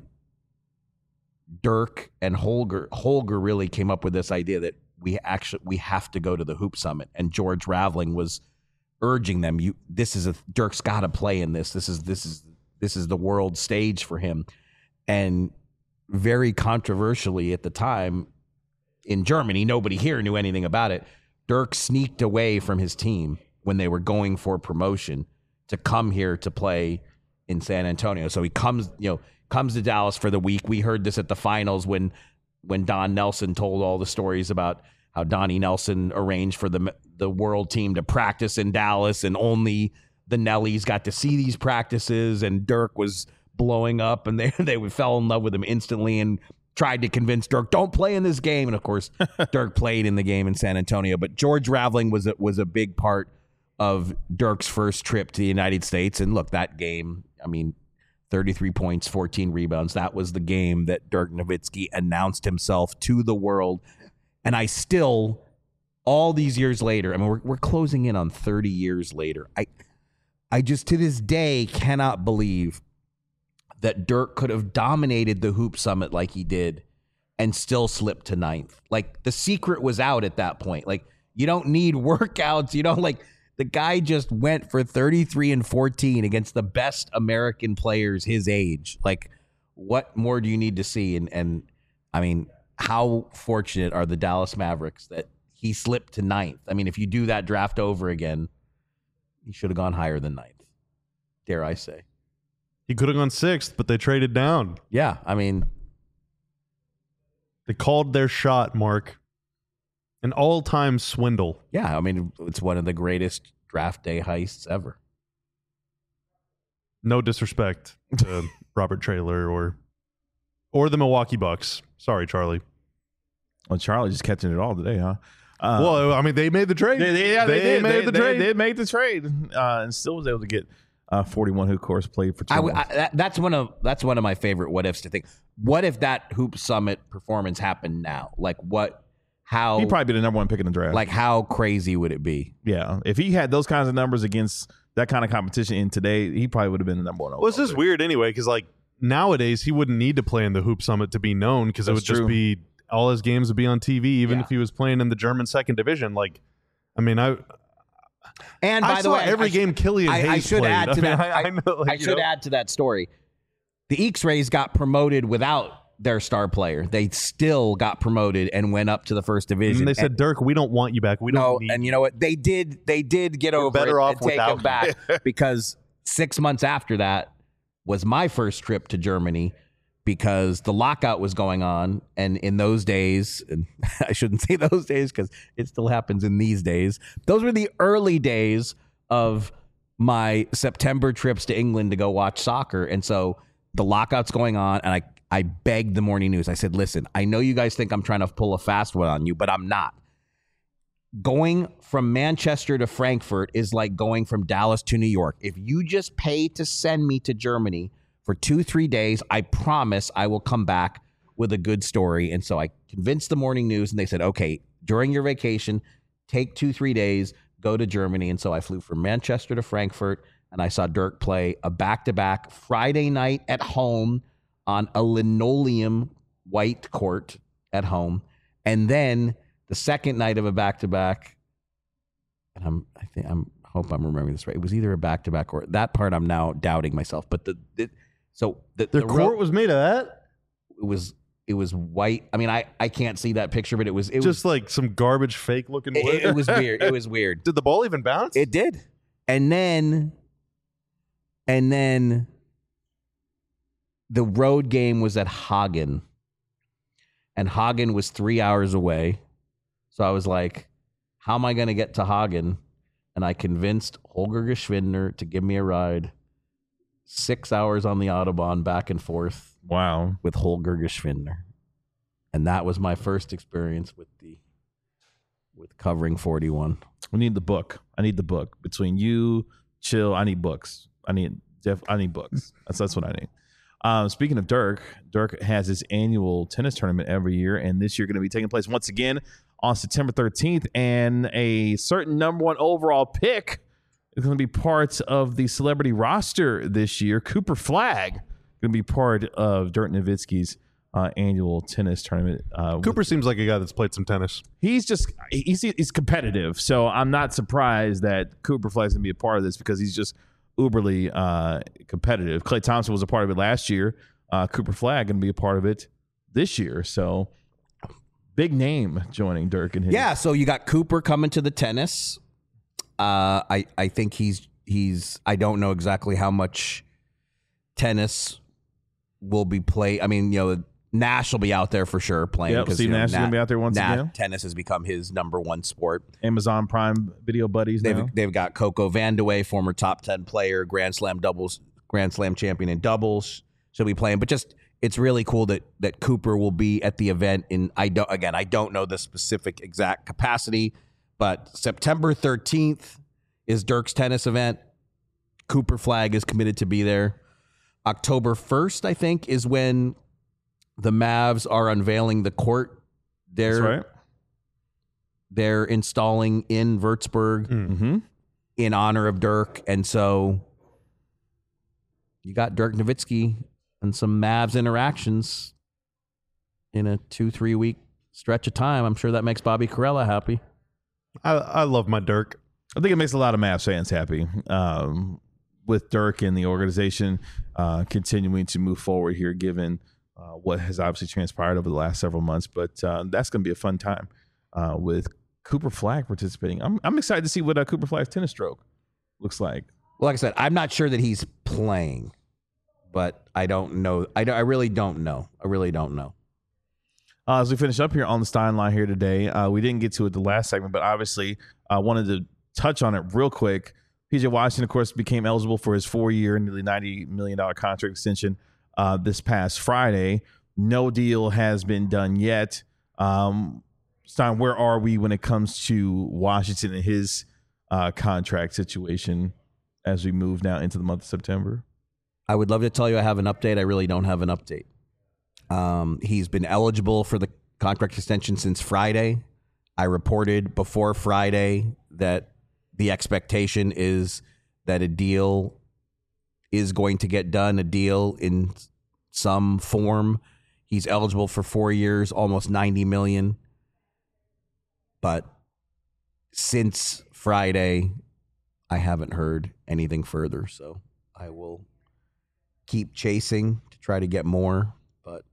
Dirk and Holger Holger really came up with this idea that we actually we have to go to the Hoop Summit. And George Raveling was urging them, you this is a Dirk's got to play in this. This is this is this is the world stage for him. And very controversially at the time in Germany, nobody here knew anything about it. Dirk sneaked away from his team when they were going for promotion to come here to play in San Antonio. So he comes, you know, comes to Dallas for the week. We heard this at the finals when when Don Nelson told all the stories about how Donnie Nelson arranged for the the world team to practice in Dallas, and only the Nellies got to see these practices, and Dirk was blowing up, and they they fell in love with him instantly and tried to convince Dirk, don't play in this game. And of course, Dirk played in the game in San Antonio. But George Raveling was a, was a big part of Dirk's first trip to the United States. And look, that game, I mean, thirty-three points, fourteen rebounds. That was the game that Dirk Nowitzki announced himself to the world. And I still, all these years later, I mean, we're, we're closing in on thirty years later. I, I just to this day cannot believe that Dirk could have dominated the Hoop Summit like he did and still slipped to ninth. Like, the secret was out at that point. Like, you don't need workouts. You don't like, the guy just went for thirty-three and fourteen against the best American players his age. Like, what more do you need to see? And, and I mean, how fortunate are the Dallas Mavericks that he slipped to ninth? I mean, if you do that draft over again, he should have gone higher than ninth, dare I say. He could have gone sixth, but they traded down. Yeah, I mean, they called their shot, Mark. An all-time swindle. Yeah, I mean, it's one of the greatest draft day heists ever. No disrespect to Robert Traylor or or the Milwaukee Bucks. Sorry, Charlie. Well, Charlie just catching it all today, huh? Uh, well, I mean, they made the trade. They, they, yeah, they, they did. made they, the they, trade. They made the trade, uh, and still was able to get uh, forty-one, who of course played for two I, months. I, that, that's one of that's one of my favorite what ifs to think. What if that Hoop Summit performance happened now? Like what? How He'd probably be the number one pick in the draft. Like, how crazy would it be? Yeah, if he had those kinds of numbers against that kind of competition in today, he probably would have been the number one. Well, it's just weird anyway, because like nowadays he wouldn't need to play in the Hoop Summit to be known, because it would That's just true. be all his games would be on T V, even Yeah. if he was playing in the German second division. Like, I mean, I And by I the saw way, I every sh- game Killian I, Hayes I should played. add to I mean, that. I, I, I, know, like, I you should know. add to that story. The X-Rays got promoted without their star player. They still got promoted and went up to the first division. And they said, And- Dirk, we don't want you back. We no, don't need and you know what? They did. They did get over better it off and take without it back because six months after that was my first trip to Germany, because the lockout was going on, and in those days, and I shouldn't say those days because it still happens in these days. Those were the early days of my September trips to England to go watch soccer, and so the lockout's going on, and I I begged the morning news. I said, listen, I know you guys think I'm trying to pull a fast one on you, but I'm not. Going from Manchester to Frankfurt is like going from Dallas to New York. If you just pay to send me to Germany for two, three days, I promise I will come back with a good story. And so I convinced the morning news, and they said, okay, during your vacation, take two, three days, go to Germany. And so I flew from Manchester to Frankfurt, and I saw Dirk play a back-to-back Friday night at home on a linoleum white court at home. And then the second night of a back-to-back, and I'm, I think I'm, hope I'm remembering this right. It was either a back-to-back or that part I'm now doubting myself. But the, the so the, Their the court ro- was made of that? it was it was white. I mean, I, I can't see that picture, but it was it was Just like some garbage fake looking wood. it, it was weird. It was weird. Did the ball even bounce? It did. And then and then the road game was at Hagen. And Hagen was three hours away. So I was like, how am I going to get to Hagen? And I convinced Holger Geschwindner to give me a ride. Six hours on the Autobahn back and forth. Wow. With Holger Geschwindner. And that was my first experience with the with covering forty-one. We need the book. I need the book. Between you, Chill, I need books. I need Jeff. I need books. That's that's what I need. Um, speaking of Dirk, Dirk has his annual tennis tournament every year, and this year going to be taking place once again on September thirteenth. And a certain number one overall pick is going to be part of the celebrity roster this year. Cooper Flagg going to be part of Dirk Nowitzki's uh, annual tennis tournament. Uh, Cooper seems like a guy that's played some tennis. He's just he's he's competitive, so I'm not surprised that Cooper Flagg's going to be a part of this because he's just uberly uh, competitive. Klay Thompson was a part of it last year. Uh, Cooper Flagg going to be a part of it this year. So big name joining Dirk and his. Yeah, so you got Cooper coming to the tennis. Uh, I I think he's he's. I don't know exactly how much tennis will be played. I mean, you know, Nash will be out there for sure playing. Yep, Steve you know, Nash is going to be out there once Nash, again. Tennis has become his number one sport. Amazon Prime Video buddies They've now. they've got Coco Vandeweghe, former top ten player, Grand Slam doubles, Grand Slam champion in doubles. She'll be playing, but just it's really cool that that Cooper will be at the event. In I don't again, I don't know the specific exact capacity, but September thirteenth is Dirk's tennis event. Cooper Flagg is committed to be there. October first, I think, is when the Mavs are unveiling the court. They're, That's right. They're installing in Würzburg Mm-hmm. in honor of Dirk. And so you got Dirk Nowitzki and some Mavs interactions in a two, three week stretch of time. I'm sure that makes Bobby Carella happy. I, I love my Dirk. I think it makes a lot of Mavs fans happy um, with Dirk and the organization uh, continuing to move forward here, given uh, what has obviously transpired over the last several months. But uh, that's going to be a fun time uh, with Cooper Flagg participating. I'm I'm excited to see what uh, Cooper Flagg's tennis stroke looks like. Well, like I said, I'm not sure that he's playing, but I don't know. I, don't, I really don't know. I really don't know. Uh, as we finish up here on the Stein line here today, uh, we didn't get to it the last segment, but obviously I uh, wanted to touch on it real quick. P J Washington, of course, became eligible for his four-year, nearly ninety million dollars contract extension uh, this past Friday. No deal has been done yet. Um, Stein, where are we when it comes to Washington and his uh, contract situation as we move now into the month of September? I would love to tell you I have an update. I really don't have an update. Um, he's been eligible for the contract extension since Friday. I reported before Friday that the expectation is that a deal is going to get done, a deal in some form. He's eligible for four years, almost ninety million dollars. But since Friday, I haven't heard anything further. So I will keep chasing to try to get more, but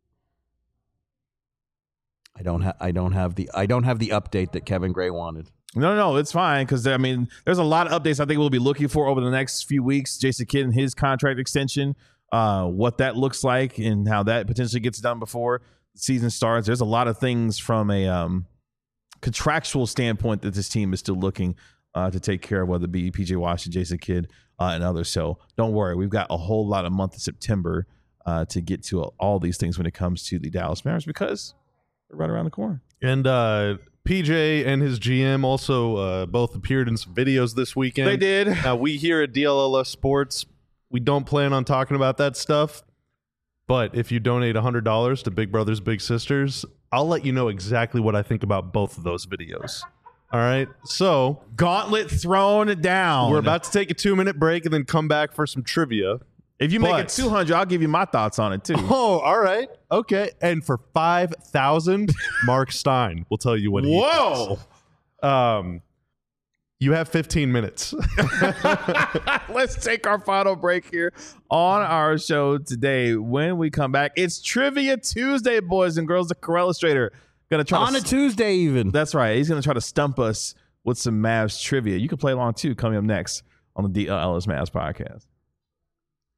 I don't have I don't have the I don't have the update that Kevin Gray wanted. No, no, it's fine because, I mean, there's a lot of updates I think we'll be looking for over the next few weeks. Jason Kidd and his contract extension, uh, what that looks like and how that potentially gets done before the season starts. There's a lot of things from a um, contractual standpoint that this team is still looking uh, to take care of, whether it be P J Washington, Jason Kidd, uh, and others. So don't worry. We've got a whole lot of month of September uh, to get to all these things when it comes to the Dallas Mavericks because they're right around the corner. And uh, P J and his G M also uh, both appeared in some videos this weekend. They did. Now, we here at D L L S Sports, we don't plan on talking about that stuff. But if you donate one hundred dollars to Big Brothers Big Sisters, I'll let you know exactly what I think about both of those videos. All right? So, Gauntlet thrown down. we're about to take a two-minute break and then come back for some trivia. If you make But- it two hundred, I'll give you my thoughts on it too. Oh, all right. Okay. And for five thousand, Mark Stein will tell you what he Whoa. thinks. Um, you have fifteen minutes. Let's take our final break here on our show today. When we come back, it's Trivia Tuesday, boys and girls. The Carell Illustrator gonna try On to a Tuesday even. That's right. He's gonna try to stump us with some Mavs trivia. You can play along too. Coming up next on the D L L S Mavs podcast.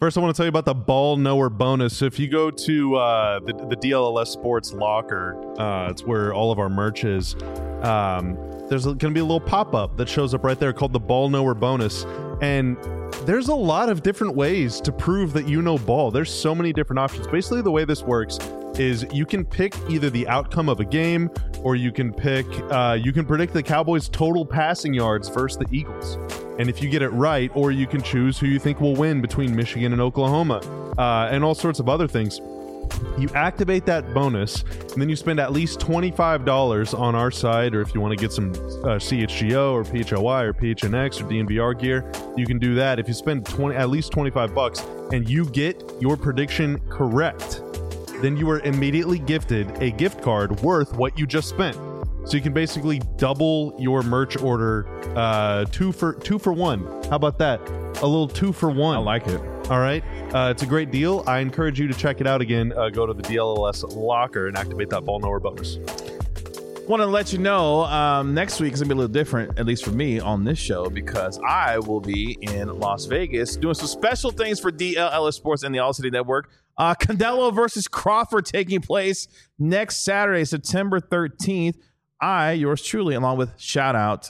First, I want to tell you about the ball knower bonus. So if you go to uh, the, the D L L S Sports Locker, uh, it's where all of our merch is. Um, there's going to be a little pop-up that shows up right there called the ball knower bonus. And there's a lot of different ways to prove that you know ball. There's so many different options. Basically, the way this works is you can pick either the outcome of a game, or you can pick, uh, you can predict the Cowboys' total passing yards versus the Eagles. And if you get it right, or you can choose who you think will win between Michigan and Oklahoma, uh, and all sorts of other things. You activate that bonus, and then you spend at least twenty-five dollars on our site, or if you want to get some uh, C H G O or P H L Y or P H N X or D N V R gear, you can do that. If you spend twenty, at least twenty-five bucks, and you get your prediction correct, then you are immediately gifted a gift card worth what you just spent. So you can basically double your merch order, uh, two for two for one. How about that? A little two for one. I like it. All right. Uh, it's a great deal. I encourage you to check it out again. Uh, go to the D L L S locker and activate that ball knower bonus. Want to let you know, um, next week is going to be a little different, at least for me, on this show, because I will be in Las Vegas doing some special things for D L L S Sports and the All City Network. Uh, Canelo versus Crawford taking place next Saturday, September thirteenth. I, yours truly, along with shout out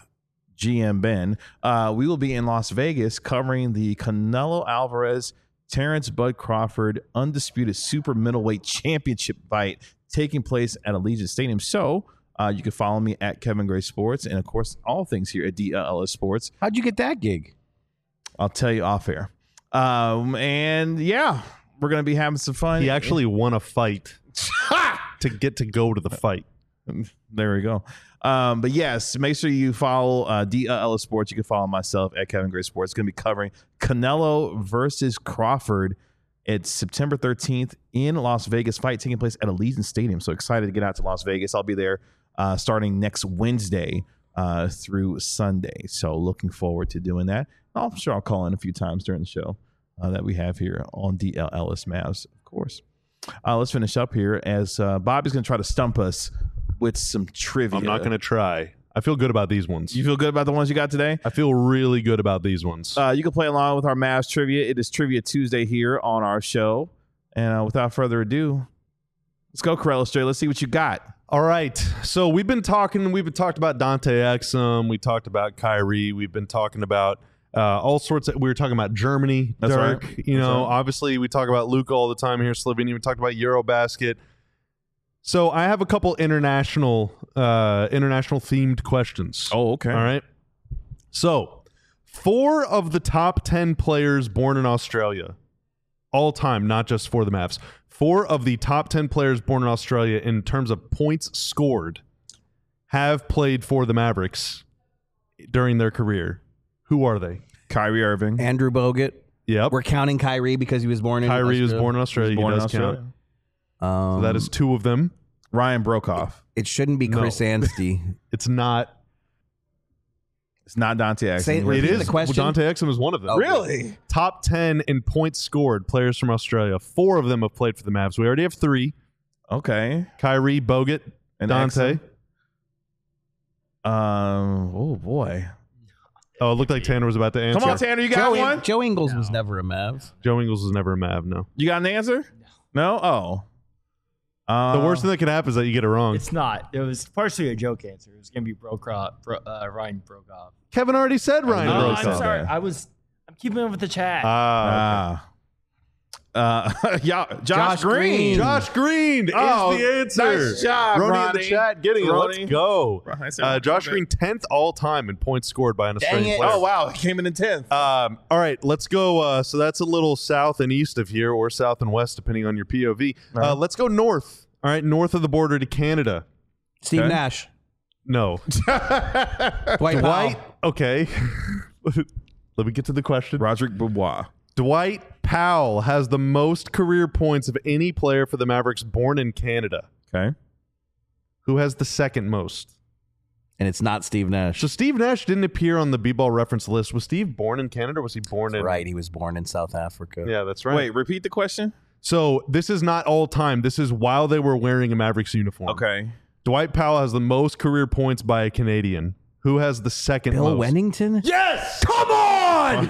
G M Ben, uh, we will be in Las Vegas covering the Canelo Alvarez, Terrence Bud Crawford undisputed super middleweight championship fight taking place at Allegiant Stadium. So uh, you can follow me at Kevin Gray Sports, and of course all things here at D L L S Sports. How'd you get that gig? I'll tell you off air. Um, and yeah, we're gonna be having some fun. He actually won a fight to get to go to the fight. There we go. Um, but yes, make sure you follow uh, D L L S Sports. You can follow myself at Kevin Gray Sports. It's going to be covering Canelo versus Crawford. It's September thirteenth in Las Vegas. Fight taking place at Allegiant Stadium. So excited to get out to Las Vegas. I'll be there uh, starting next Wednesday uh, through Sunday. So looking forward to doing that. I'm sure I'll call in a few times during the show uh, that we have here on D L L S Mavs, of course. Uh, let's finish up here as uh, Bobby's going to try to stump us with some trivia. I'm not going to try. I feel good about these ones. You feel good about the ones you got today? I feel really good about these ones. Uh, you can play along with our Mavs trivia. It is Trivia Tuesday here on our show. And uh, without further ado, let's go, Corella Stray. Let's see what you got. All right. So we've been talking, we've been talked about Dante Exum. We talked about Kyrie. We've been talking about uh, all sorts of, we were talking about Germany, That's Dirk. right. You That's know, right. obviously we talk about Luka all the time here, Slovenia. We talked about Eurobasket. So I have a couple international, uh, international themed questions. Oh, okay. All right. So four of the top ten players born in Australia, all time, not just for the Mavs. Four of the top ten players born in Australia in terms of points scored have played for the Mavericks during their career. Who are they? Kyrie Irving. Andrew Bogut. Yep. We're counting Kyrie because he was born in Kyrie was Australia. born in Australia. Born he in does Australia. count. Um, So that is two of them. Ryan Brokoff. It shouldn't be No. Chris Anstey. It's not. It's not Dante Exum. Say- It Repeat is. the question? Dante Exum is one of them. Oh, Really? Top ten in points scored players from Australia. Four of them have played for the Mavs. We already have three. Okay. Kyrie, Bogut, And Dante. Exum? Um. Oh boy. Oh, it looked like Tanner was about to answer. Come on, Tanner. You got Joe, one? Joe Ingles was never a Mav. Joe Ingles was never a Mav, no. You got an answer? No. Oh. Uh, The worst thing that can happen is that you get it wrong. It's not. It was partially a joke answer. It was going to be Brokoff, Bro, uh, Ryan Brokoff. Kevin already said Ryan Oh, Oh, Brokoff. I'm Brokoff. sorry. Okay. I was. I'm keeping up with the chat. Ah, Ah. Uh, yeah, Josh, Josh Green. Green. Josh Green Oh, is the answer. nice job, Ronnie in Ronnie. the chat getting it. Ronnie. Let's go. I said- Uh, Josh okay. Green, tenth all time in points scored by an Australian it. player. Oh wow, he came in in tenth. Um, all right, let's go. Uh, so that's a little south and east of here, or south and west, depending on your P O V. Uh, Uh-huh. let's go north. All right, north of the border to Canada. Steve Okay. Nash. No. Dwight Dwight. Powell. Okay. Let me get to the question. Roderick Beaubois. Dwight Powell has the most career points of any player for the Mavericks born in Canada. Okay. Who has the second most? And it's not Steve Nash. So Steve Nash didn't appear on the B-ball reference list. Was Steve born in Canada or was he born in... right. He was born in South Africa. Yeah, that's right. Wait, repeat the question. So this is not all time. This is while they were wearing a Mavericks uniform. Okay. Dwight Powell has the most career points by a Canadian. Who has the second Bill most? Wennington? Yes! Come on!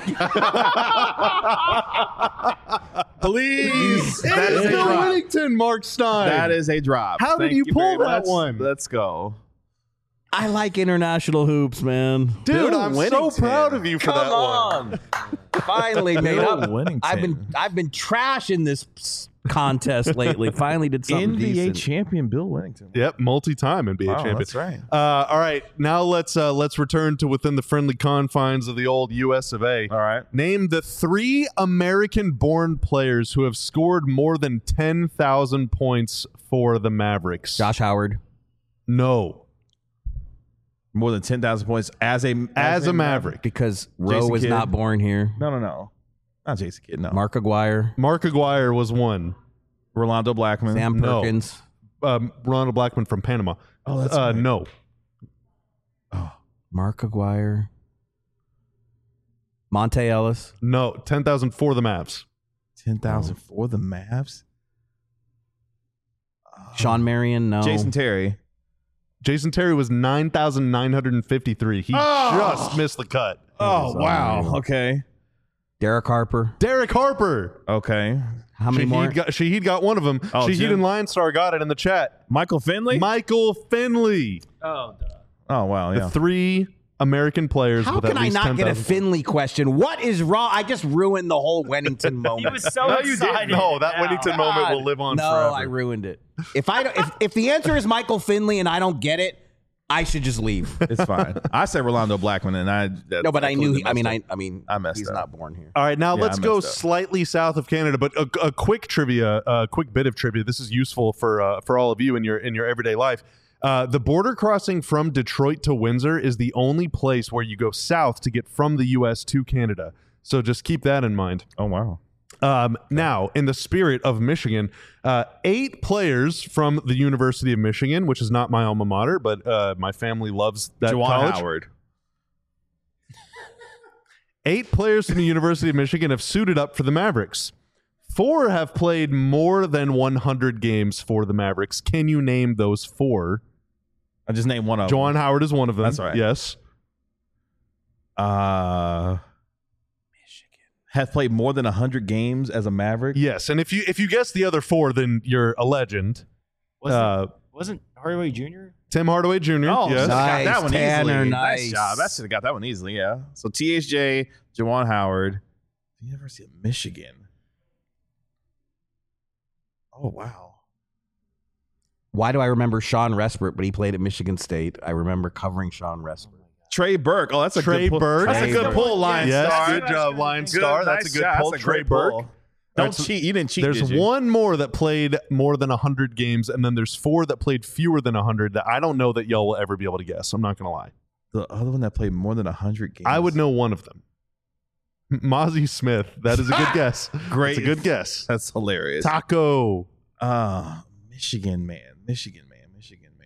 Please. It That is is a Bill drop. Wennington, Mark Stein. That is a drop. How did Thank you very pull that much. one? Let's go. I like international hoops, man. Dude, Bill I'm so Wennington. proud of you for Come that one. on. Finally made Bill up. Wennington. I've been I've been trashing this s- contest lately. Finally did something N B A decent. champion Bill Wennington. Yep, multi-time N B A Wow, champion. that's right. Uh, all right, now let's uh, let's return to within the friendly confines of the old U S of A. All right. Name the three American-born players who have scored more than ten thousand points for the Mavericks. Josh Howard. No, More than ten thousand points as a as a Maverick. Because Rowe Jason was Kidd. not born here. No, no, no. Not Jason Kidd, no. Mark Aguirre. Mark Aguirre was one. Rolando Blackman. Sam No. Perkins. Um, Ronald Blackman from Panama. Oh, that's uh, right. No. Mark Aguirre. Monte Ellis. No. ten thousand for the Mavs. ten thousand for the Mavs. Sean Marion. No. Jason Terry. Jason Terry was nine thousand nine hundred fifty-three. He Oh. just missed the cut. Oh, wow. Okay. Derek Harper. Derek Harper. Okay. How many Shahid more? got, Shahid got one of them. Oh, Shahid Jim? and Lion Star got it in the chat. Michael Finley? Michael Finley. Oh, duh. oh, wow. The Yeah. three American players How with can at I least not get a ten thousand. Finley question? What is wrong? I just ruined the whole Wennington He moment. was so No, you excited. didn't. No, that now. Wennington moment will live on no, forever. I ruined it. If I don't, if, if the answer is Michael Finley and I don't get it, I should just leave. It's fine. I said Rolando Blackman, and I. That, No, but I knew. completely He, I mean, messed I. up. I mean, I messed he's up. not born here. All right, now Yeah, let's I go messed up. slightly south of Canada, but a, a quick trivia, a quick bit of trivia. This is useful for uh, for all of you in your in your everyday life. Uh, the border crossing from Detroit to Windsor is the only place where you go south to get from the U S to Canada. So just keep that in mind. Oh, wow. Um, now, in the spirit of Michigan, uh, eight players from the University of Michigan, which is not my alma mater, but uh, my family loves that Juwan college. Howard. Eight players from the University of Michigan have suited up for the Mavericks. Four have played more than one hundred games for the Mavericks. Can you name those four? I just named one of Juwan Howard is one of them. That's right. Yes. them. Uh, Michigan. Have played more than one hundred games as a Maverick? Yes. And if you if you guess the other four, then you're a legend. Wasn't, Uh, wasn't Hardaway Junior? Tim Hardaway Junior Oh, Yes. should've got Nice, that one Tanner, easily. nice. job. That should have got that one easily, yeah. So T H J, Juwan Howard, the University of Michigan. Oh, wow. Why do I remember Sean Respert, but he played at Michigan State? I remember covering Sean Respert. Trey Burke. Oh, that's a Trey good pull. Burke. That's a Trey good Burke. pull, Lion Yes, Star. good job, Lion Good, Star. That's nice a good shot. pull. That's a Trey great pull. Burke. Don't Alright, so cheat. You didn't cheat, There's did you? one more that played more than one hundred games, and then there's four that played fewer than one hundred that I don't know that y'all will ever be able to guess. I'm not going to lie. The other one that played more than one hundred games. I would know one of them. Mozzie Smith. That is a good guess. Great. It's a good guess. That's hilarious. Taco. Uh, Michigan man. Michigan man. Michigan man.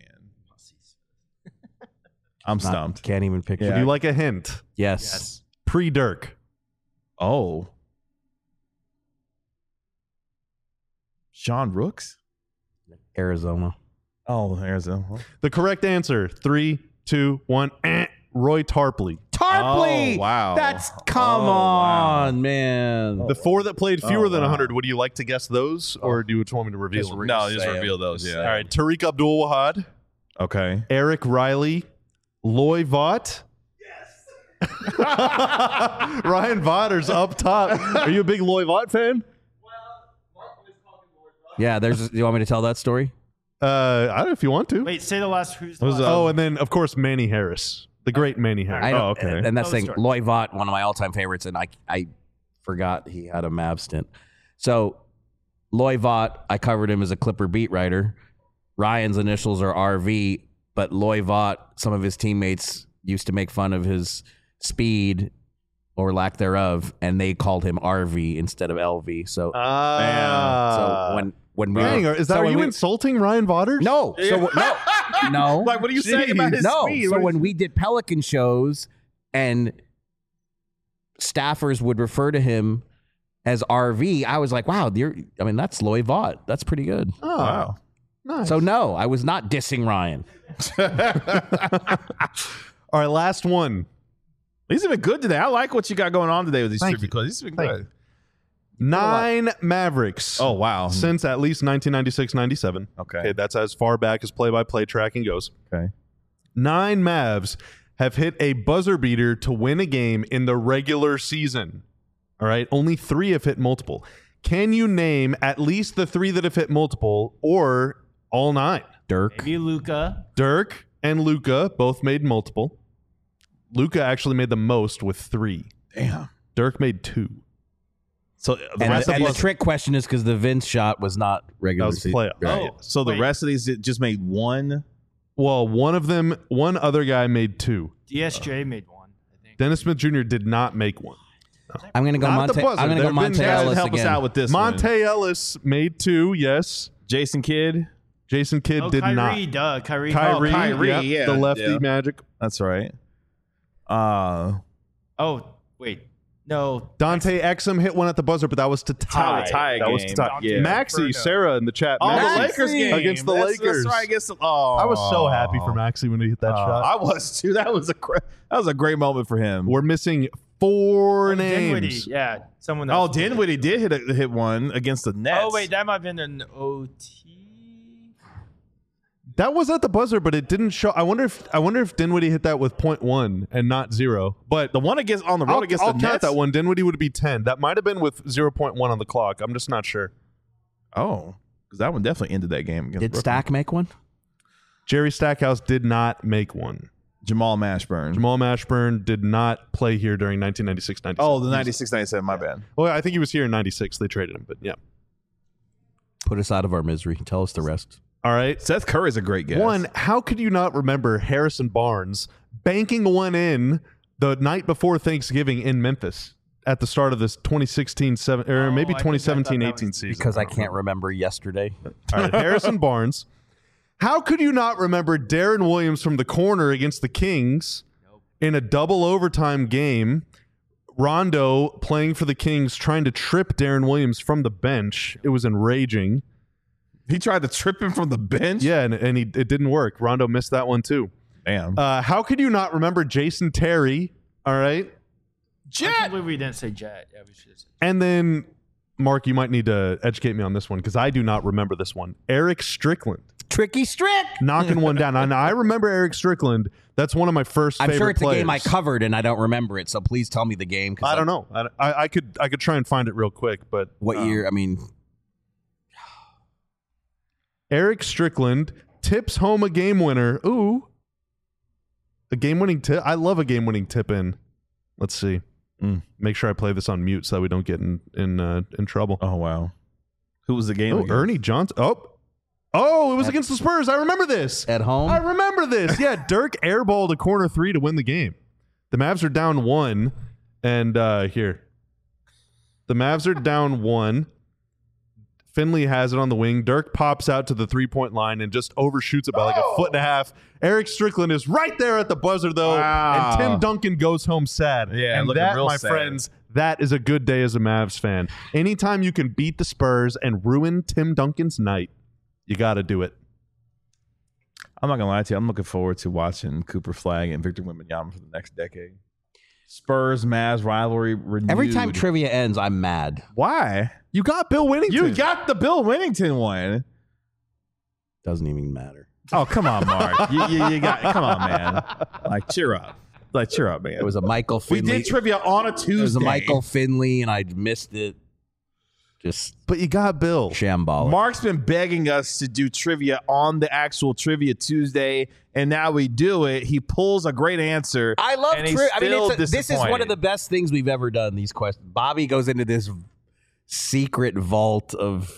I'm Not- stumped. Can't even picture. Would you like a hint? Yes. Pre Dirk. Oh. Sean Rooks? Arizona. Oh, there's a. The correct answer. Three, two, one. Eh. Roy Tarpley. Tarpley. Oh, wow. That's come Oh, wow. on, man. The four that played fewer Oh, than wow. one hundred. Would you like to guess those, or do you just want me to reveal Just them? re- No, just Say reveal it. those. Just Yeah. All right. Tariq Abdul Wahad, Okay. Eric Riley, Loy Vaught. Yes. Ryan Vatter's up top. Are you a big Loy Vaught fan? Yeah, there's. You want me to tell that story? Uh, I don't know if you want to. Wait, say the last. Who's the Who's last? the- Oh, and then of course Manny Harris, the great Manny Harris. I Oh, know, okay. And that's Tell the the thing. Loy Vaught, one of my all-time favorites, and I I forgot he had a Mav stint. So Loy Vaught, I covered him as a Clipper beat writer. Ryan's initials are R V, but Loy Vaught, some of his teammates used to make fun of his speed or lack thereof, and they called him R V instead of L V. So, Ah. so when when we Dang, were, is that so are when you we- insulting Ryan Vaters? no, so no, no. Like, what are you saying about his No. speed? So What when is- we did Pelican shows and staffers would refer to him as R V, I was like, wow, you're, I mean, that's Loy Vaught. That's pretty good. Oh, Wow. nice. So no, I was not dissing Ryan. All right, last one. These have been good today. I like what you got going on today with these Thank trivia you. quizzes. These have been Thank good. Nine Mavericks. Oh, wow. Since at least nineteen ninety-six ninety-seven. Okay. Okay, that's as far back as play-by-play tracking goes. Okay. Nine Mavs have hit a buzzer beater to win a game in the regular season. All right. Only three have hit multiple. Can you name at least the three that have hit multiple or all nine? Dirk. Maybe Luca. Dirk and Luca both made multiple. Luca actually made the most with three. Damn. Dirk made two. So the And, rest the, of and the us, trick question is because the Vince shot was not regular That was season. playoff. Right. Oh, so the wait. rest of these just made one. Well, one of them, one other guy made two. D S J made one, I think. Dennis Smith Junior did not make one. I'm going to go Not the Monte. buzzer. I'm going to There go have been Monte guys that Ellis help us again. out with this Monte one. Ellis made two, yes. Jason Kidd. Jason Kidd Oh, did Kyrie, not. duh. Kyrie. Kyrie, Oh, Kyrie, yep, yeah, the lefty yeah. Magic. That's right. Uh, Oh, wait. No. Dante Exum hit one at the buzzer, but that was to tie. tie, tie that was game. to tie. Yeah. Maxey, Inferno. Sarah in the chat. oh, the Maxey Lakers game against the That's- Lakers. That's right. Against the, oh, I was so happy for Maxey when he hit that Uh, shot. I was too. That was a cra- that was a great moment for him. We're missing four Oh, names. Dinwiddie. Yeah. Someone Oh, else. Dinwiddie did hit a, hit one against the Nets. Oh, wait. That might have been an O T. That was at the buzzer, but it didn't show. I wonder if I wonder if Dinwiddie hit that with point one and not zero. But the one against on the road I'll, against I'll the count Nets. that one. Dinwiddie would be ten. That might have been with zero point one on the clock. I'm just not sure. Oh, because that one definitely ended that game against Did Brooklyn. Stack make one? Jerry Stackhouse did not make one. Jamal Mashburn. Jamal Mashburn did not play here during nineteen ninety-six ninety-seven. Oh, the ninety-six ninety-seven. My bad. Well, I think he was here in ninety-six. They traded him, but yeah. Put us out of our misery. Tell us the rest. All right. Seth Curry's a great guess. One, how could you not remember Harrison Barnes banking one in the night before Thanksgiving in Memphis at the start of this twenty sixteen seven or Oh, maybe I think I twenty thought seventeen that eighteen was- season? Because I don't can't remember yesterday. All right, Harrison Barnes. How could you not remember Darren Williams from the corner against the Kings in a double overtime game? Rondo playing for the Kings, trying to trip Darren Williams from the bench. It was enraging. He tried to trip him from the bench. Yeah, and, and he, it didn't work. Rondo missed that one too. Damn. Uh, how could you not remember Jason Terry? All right. I can't believe we didn't say Jet. Yeah, we should have said And then, Mark, you might need to educate me on this one because I do not remember this one. Eric Strickland. Tricky Strick. Knocking one down. And I remember Eric Strickland. That's one of my first I'm favorite sure it's players. a game I covered and I don't remember it. So please tell me the game. 'cause I don't know. I, I, I could I could try and find it real quick, but What um, year? I mean, Eric Strickland tips home a game winner. Ooh, a game winning tip. I love a game winning tip in. Let's see. Mm. Make sure I play this on mute so that we don't get in in uh, in trouble. Oh wow. Who was the game? Oh, against? Ernie Johnson. Oh, oh, it was against the Spurs. I remember this. at home. I remember this. Yeah, Dirk airballed a corner three to win the game. The Mavs are down one, and uh, here, the Mavs are down one. Finley has it on the wing. Dirk pops out to the three-point line and just overshoots it by like a foot and a half. Eric Strickland is right there at the buzzer, though, Wow. and Tim Duncan goes home sad. Yeah, and looking that, real my sad. friends, that is a good day as a Mavs fan. Anytime you can beat the Spurs and ruin Tim Duncan's night, you got to do it. I'm not gonna lie to you. I'm looking forward to watching Cooper Flag and Victor Wembanyama for the next decade. Spurs Mavs rivalry renewed. Every time trivia ends, I'm mad. Why? You got Bill Winnington. You got the Bill Winnington one. Doesn't even matter. Oh come on, Mark. you, you, you got. Come on, man. Like cheer up. Like cheer up, man. It was a Michael we Finley. did trivia on a Tuesday. It was a Michael Finley, and I missed it. Just But you got Bill. shambolic. Mark's been begging us to do trivia on the actual Trivia Tuesday, and now we do it. He pulls a great answer. I love and he's tri- I mean, still it's a, this is one disappointed. of the best things we've ever done. These questions. Bobby goes into this secret vault of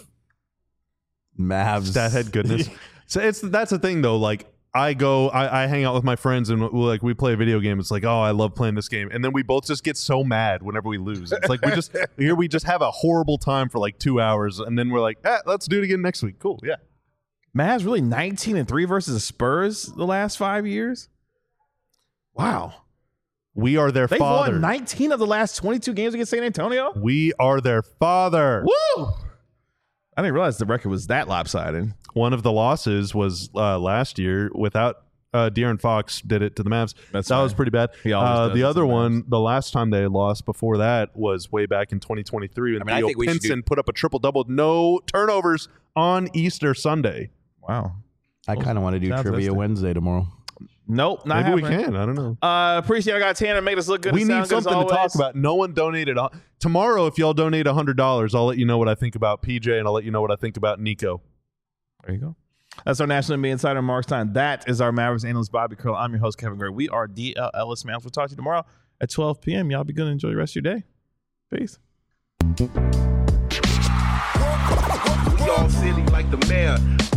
Mavs. Stathead goodness. So it's that's the thing though. Like I go, I, I hang out with my friends and we like we play a video game. It's like, oh, I love playing this game, and then we both just get so mad whenever we lose. It's like we just here we just have a horrible time for like two hours, and then we're like, eh, let's do it again next week. Cool, yeah. Mavs really nineteen and three versus the Spurs the last five years. Wow, We are their they father. won nineteen of the last twenty-two games against San Antonio. we are their father. Woo! I didn't realize the record was that lopsided. One of the losses was uh, last year without Uh, De'Aaron Fox did it to the Mavs. That's that right. was pretty bad. He always Uh, does the it to other the one, the last time they lost before that was way back in twenty twenty-three when I mean, I Theo think we should Pinson do- put up a triple-double, no turnovers on Easter Sunday. Wow. I kind of want to do Sounds Trivia interesting. Wednesday tomorrow. Nope, not Maybe we happening. can. I don't know. Uh, appreciate I got Tanner make us look good. We and need sound good as something to talk always. about. No one donated. a- Tomorrow, if y'all donate one hundred dollars, I'll let you know what I think about P J, and I'll let you know what I think about Nico. There you go. That's our National N B A Insider, Mark Stein. That is our Mavericks analyst, Bobby Curl. I'm your host, Kevin Gray. We are D L Ellis Mavs. We'll talk to you tomorrow at twelve p.m. Y'all be good and enjoy the rest of your day. Peace. We all silly like the mayor.